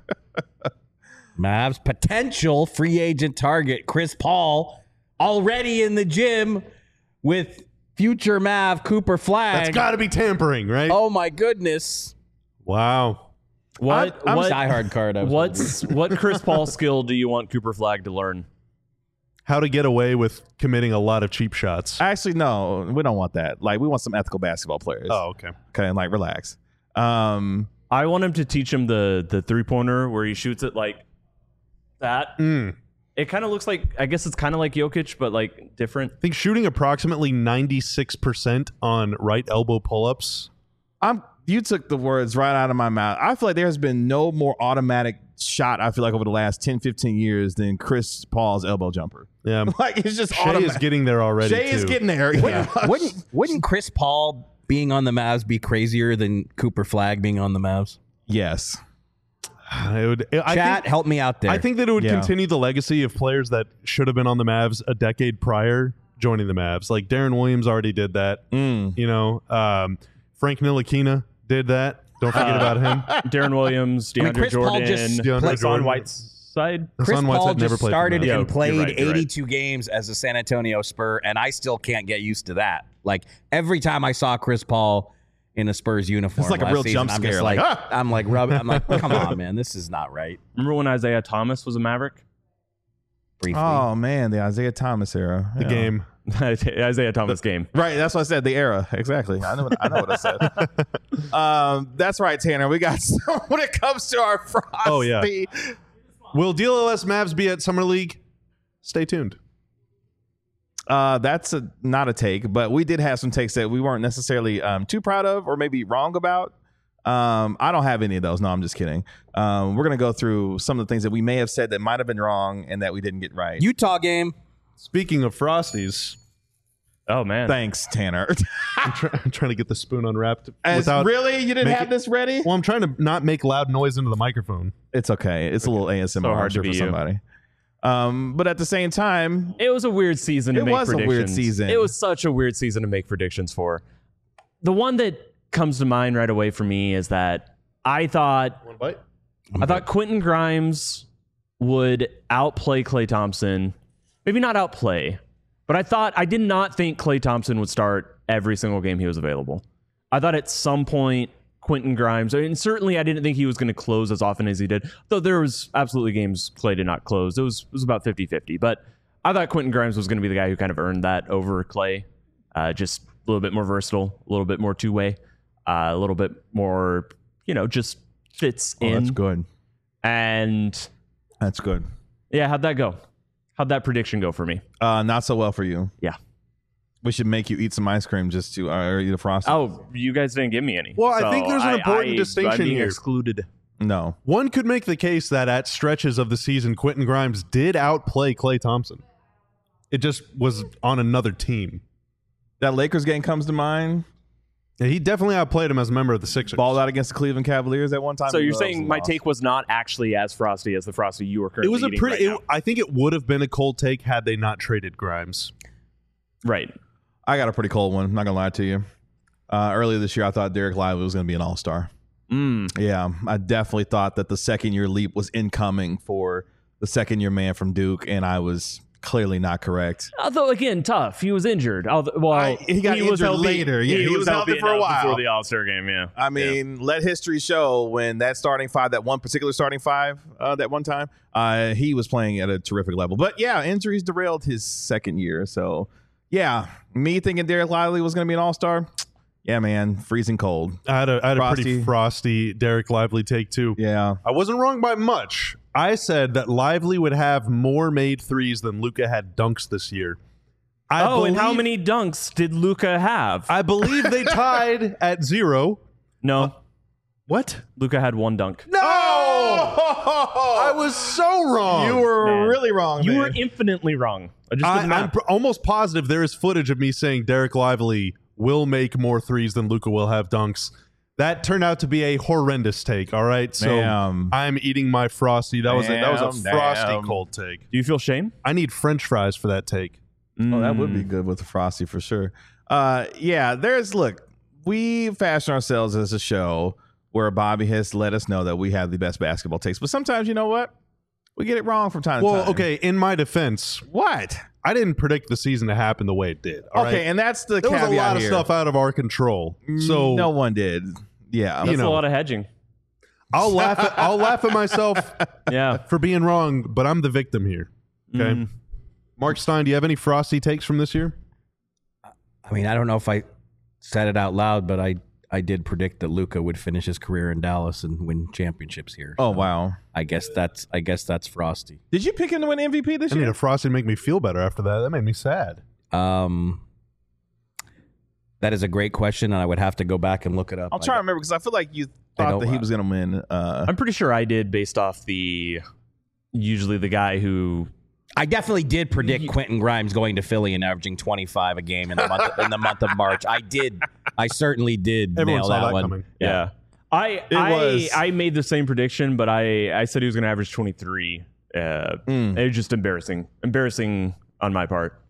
Mavs potential free agent target Chris Paul already in the gym with future Mav Cooper Flag. That's got to be tampering, right? Oh my goodness! Wow. What I'm what diehard card. I was what's what Chris Paul skill do you want Cooper Flag to learn? How to get away with committing a lot of cheap shots. Actually, no, we don't want that. Like, we want some ethical basketball players. Oh, okay. Okay, and like, relax. Um, I want him to teach him the the three pointer where he shoots it like that. Mm. It kind of looks like, I guess it's kind of like Jokic, but like different. I think shooting approximately ninety-six percent on right elbow pull-ups. I'm. You took the words right out of my mouth. I feel like there has been no more automatic shot, I feel like, over the last ten, fifteen years than Chris Paul's elbow jumper. Yeah. Like, it's just Shea automatic. is getting there already, Shea is too. getting there. Yeah. wouldn't wouldn't Chris Paul being on the Mavs be crazier than Cooper Flag being on the Mavs? Yes. It would, I Chat, think, help me out there. I think that it would Yeah. continue the legacy of players that should have been on the Mavs a decade prior joining the Mavs. Like Darren Williams already did that. Mm. You know, um, Frank Ntilikina did that. Don't forget Uh, about him. Darren Williams, I mean, DeAndre Chris Paul Jordan, just DeAndre Hassan Jordan. Whiteside. Chris Hassan Paul Whiteside never just played for started the Mavs. and Yeah, played you're right, you're right. eighty-two games as a San Antonio Spur, and I still can't get used to that. Like every time I saw Chris Paul in a Spurs uniform, It's like a last real season, jump I'm scare, just like, like, ah! I'm like, rub, I'm like, come on, man, this is not right. Remember when Isaiah Thomas was a Maverick? Briefly, Oh man, the Isaiah Thomas era. The Yeah. game. Isaiah Thomas game. Right, that's what I said. The era, exactly. I know. What, I know what I said. um, that's right, Tanner. We got some, when it comes to our frosty. Oh, yeah. Will D L S Mavs be at Summer League? Stay tuned. Uh, that's a, not a take, but we did have some takes that we weren't necessarily um, too proud of or maybe wrong about. Um, I don't have any of those. No, I'm just kidding. Um, we're gonna go through some of the things that we may have said that might have been wrong and that we didn't get right. Utah game. Speaking of Frosties, Oh man. Thanks, Tanner. I'm, try- I'm trying to get the spoon unwrapped As, without. really, you didn't make have it- this ready? Well, I'm trying to not make loud noise into the microphone. It's okay. It's a little A S M R So hard to for be you. somebody. Um, but at the same time, It was a weird season to It make was a weird predictions. season. It was such a weird season to make predictions for. The one that comes to mind right away for me is that I thought One bite. I thought Quentin Grimes would outplay Klay Thompson. Maybe not outplay, but I thought I did not think Klay Thompson would start every single game he was available. I thought at some point Quentin Grimes, I mean, certainly I didn't think he was going to close as often as he did, though there was absolutely games Klay did not close. It was it was about fifty-fifty, but I thought Quentin Grimes was going to be the guy who kind of earned that over Klay. Uh, just a little bit more versatile, a little bit more two-way, uh, a little bit more, you know, just fits oh, in. that's good. And That's good. yeah, how'd that go? How'd that prediction go for me? Uh, not so well for you. Yeah. We should make you eat some ice cream just to, uh, or eat a frosty. Oh, you guys didn't give me any. Well, I So think there's an important I, distinction I'm being here. excluded. No. One could make the case that at stretches of the season, Quentin Grimes did outplay Klay Thompson. It just was on another team. That Lakers game comes to mind. Yeah, he definitely outplayed him as a member of the Sixers. Balled out against the Cleveland Cavaliers at one time. So you're That was saying a my loss. take was not actually as frosty as the frosty you were It currently was a eating pretty. right it- I think it would have been a cold take had they not traded Grimes. now. Right. I got a pretty cold one. I'm not gonna lie to you. Uh, earlier this year, I thought Derek Lively was gonna be an All Star. Mm. Yeah, I definitely thought that the second year leap was incoming for the second year man from Duke, and I was clearly not correct. Although again, tough. He was injured. Although, well, I- he got was injured healthy. later. Yeah, he was healthy for a enough while. before the All Star game. Yeah. I mean, let history show when that starting five, that one particular starting five, uh, that one time, uh, he was playing at a terrific level. But yeah, injuries derailed his second year. So yeah, me thinking Derek Lively was going to be an All Star. Yeah, man, freezing cold. I had a, I had a Frosty. pretty frosty Derek Lively take too. Yeah, I wasn't wrong by much. I said that Lively would have more made threes than Luka had dunks this year. I oh, and how believe- many dunks did Luca have? I believe they tied at zero. no, What? Luca had one dunk. No! I was so wrong. you were Man. really wrong. You man. were infinitely wrong. I just I, did the I'm math. pr- almost positive there is footage of me saying Derek Lively will make more threes than Luka will have dunks. That turned out to be a horrendous take. All right, so Damn. I'm eating my frosty. That was a, that was a Damn, frosty damn. cold take. Do you feel shame? I need French fries for that take. Oh, that would be Mm. good with the frosty for sure. Uh, yeah, there's look, we fashion ourselves as a show where Bobby has let us know that we have the best basketball takes, but sometimes you know what, we get it wrong from time to Well, time. okay. In my defense, what? I didn't predict the season to happen the way it did. all Okay, right? and that's the there was caveat a lot of here. stuff out of our control. So no one did. Yeah, That's you know. a lot of hedging. I'll laugh. At, I'll laugh at myself Yeah. for being wrong, but I'm the victim here. Okay. Mm. Mark Stein, do you have any frosty takes from this year? I mean, I don't know if I said it out loud, but I I did predict that Luka would finish his career in Dallas and win championships here. Oh So wow! I guess that's I guess that's frosty. Did you pick him to win M V P this I need year? a frosty to make me feel better after that. That made me sad. Um, that is a great question, and I would have to go back and look it up. I'll try to remember because I feel like you I thought don't- that he was going to win. Uh, I'm pretty sure I did based off the usually the guy who I definitely did predict Quentin Grimes going to Philly and averaging twenty-five a game in the month in the month of March. I did. I certainly did Everyone nail saw that, that one. coming. yeah. I It I was- I made the same prediction, but I I said he was going to average twenty-three. Uh, mm. It was just embarrassing, embarrassing on my part.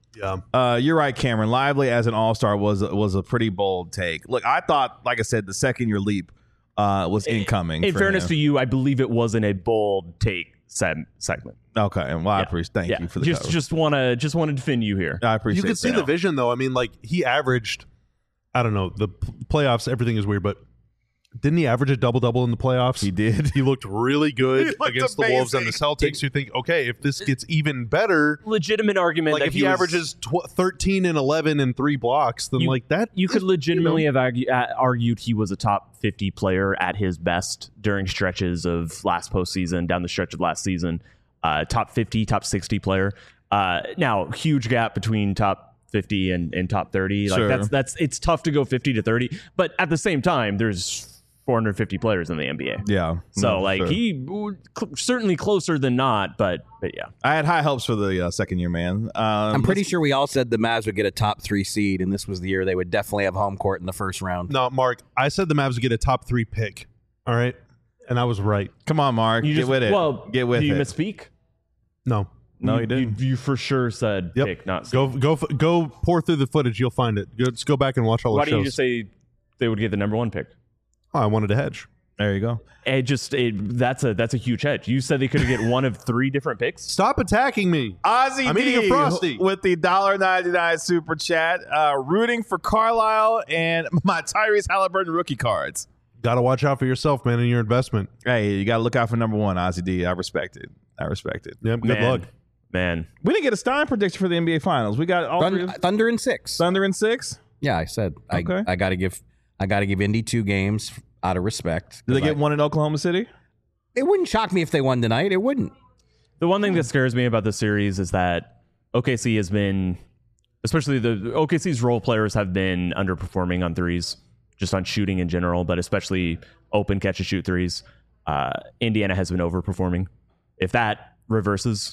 Yeah. Uh, you're right, Cameron. Lively as an all-star was was a pretty bold take. Look, I thought, like I said, the second year leap uh, was incoming. In for fairness him. to you, I believe it wasn't a bold take se- segment. Okay, and well, I Yeah. appreciate. Thank Yeah. you for the just cover. just want to just want to defend you here. I appreciate. You can see that. the vision, though. I mean, like, he averaged, I don't know, the p- playoffs, everything is weird, but didn't he average a double-double in the playoffs? He did. He looked really good He looked against the Wolves and the amazing. Celtics. You think, okay, if this gets even better, Legitimate argument like that if he, was- averages tw- thirteen and eleven and three blocks, then You- like that, You could is- legitimately you know, have argue, uh, argued he was a top fifty player at his best during stretches of last postseason, down the stretch of last season. Uh, top fifty, top sixty player. Uh, now, huge gap between top fifty and, and top thirty. Like Sure. that's that's it's tough to go fifty to thirty, but at the same time, there's four hundred fifty players in the N B A. Yeah. So No, like sure. he cl- certainly closer than not, but but yeah. I had high hopes for the uh, second year man. Um, I'm pretty sure we all said the Mavs would get a top three seed, and this was the year they would definitely have home court in the first round. no, Mark, I said the Mavs would get a top three pick. All right. And I was right. Come on, Mark. You get just, with it. Well, get with do you it. misspeak? No. No, you, you didn't. You, you for sure said Yep. pick, not Go go f- go pour through the footage. You'll find it. Go, just go back and watch all Why the don't shows. you just say they would get the number one pick? oh, I wanted to hedge. There you go. It just it, that's a that's a huge hedge. You said they could get one of three different picks. Stop attacking me. Ozzy I'm D eating a Frosty. with the one dollar ninety-nine super chat, uh, rooting for Carlisle and my Tyrese Halliburton rookie cards. Got to watch out for yourself, man, and your investment. Hey, you got to look out for number one, Ozzy D. I respect it. I respect it. Yep. Good Man, luck. man. We didn't get a Stein prediction for the N B A Finals. We got all three Thun- of- Thunder in six. Thunder in six. Yeah, I said I, Okay. I got to give I got to give Indy two games out of respect. Did they get I- one in Oklahoma City? It wouldn't shock me if they won tonight. It wouldn't. The one thing that scares me about this series is that O K C has been, especially the O K C's role players have been underperforming on threes, just on shooting in general, but especially open catch and shoot threes. Uh, Indiana has been overperforming. If that reverses,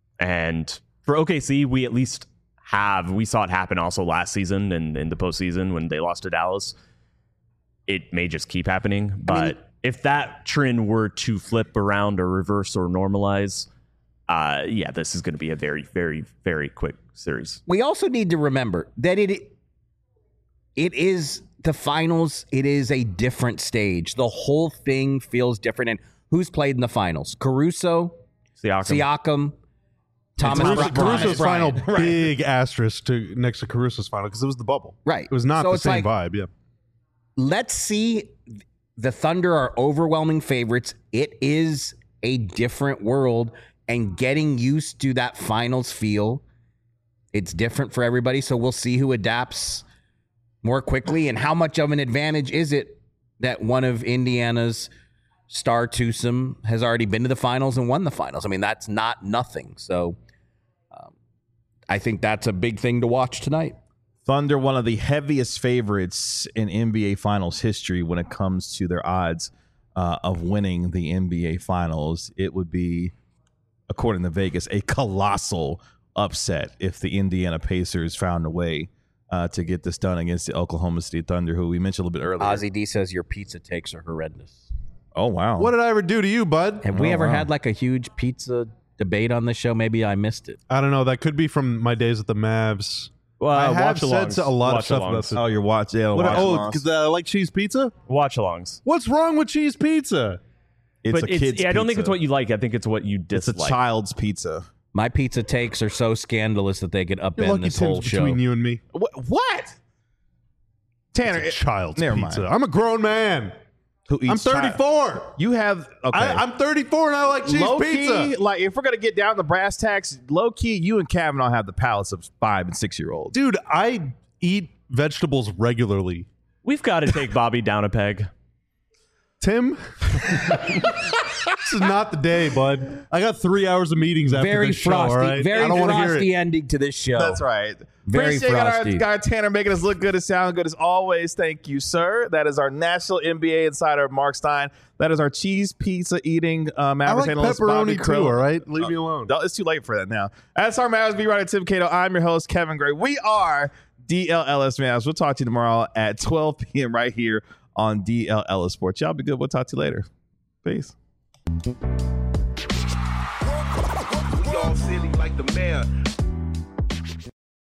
and for O K C, we at least have, we saw it happen also last season and in the postseason when they lost to Dallas. It may just keep happening, but I mean, if that trend were to flip around or reverse or normalize, uh, yeah, this is going to be a very, very, very quick series. We also need to remember that it it is the finals. It is a different stage. The whole thing feels different. And who's played in the finals? Caruso, Siakam. Siakam, Thomas Caruso, Bryant. Caruso's final Right. big asterisk to next to Caruso's final because it was the bubble. Right. It was not So the it's same like- vibe. Yeah. Let's see. The Thunder are overwhelming favorites. It is a different world, and getting used to that finals feel, it's different for everybody. So we'll see who adapts more quickly, and how much of an advantage is it that one of Indiana's star twosome has already been to the finals and won the finals. I mean, that's not nothing. So um, I think that's a big thing to watch tonight. Thunder, one of the heaviest favorites in N B A Finals history when it comes to their odds uh, of winning the N B A Finals. It would be, according to Vegas, a colossal upset if the Indiana Pacers found a way uh, to get this done against the Oklahoma City Thunder, who we mentioned a little bit earlier. Ozzy D says your pizza takes are horrendous. Oh, wow. What did I ever do to you, bud? Have we Oh, ever wow. had like a huge pizza debate on this show? Maybe I missed it. I don't know. That could be from my days at the Mavs. Well, I have watch said alongs. a lot of Watch stuff alongs. about this. Oh, you're watching. Yeah, What, watch oh, alongs. because I like cheese pizza? Watch alongs. What's wrong with cheese pizza? It's but a it's, kid's I don't think pizza. it's what you like. I think it's what you It's a dislike. child's pizza. My pizza takes are so scandalous that they could You're upend lucky this Tim's whole show. between you and me. What? what? Tanner, It's a child's never pizza. mind. I'm a grown man. Who eats I'm child- thirty-four. You have okay. I, I'm thirty-four and I like cheese low pizza. key, like if we're gonna get down to brass tacks, low key, you and Kavanaugh have the palates of five and six year olds. Dude, I eat vegetables regularly. We've got to take Bobby down a peg. Tim, this is not the day, bud. I got three hours of meetings after Very this frosty, show, all right? very I don't want to hear frosty it. ending to this show. That's right. Very Appreciate our frosty. guy Tanner making us look good and sound good as always. Thank you, sir. That is our national N B A insider, Mark Stein. That is our cheese pizza eating uh, I Mavericks like analyst, Bobby pepperoni Krill. too, all right? Leave me alone. No, it's too late for that now. That's our Mavs beat writer, Tim Cato. I'm your host, Kevin Gray. We are D L L S Mavs. We'll talk to you tomorrow at twelve p.m. right here on D L L S Sports. Y'all be good. We'll talk to you later. Peace. We all silly like the mayor.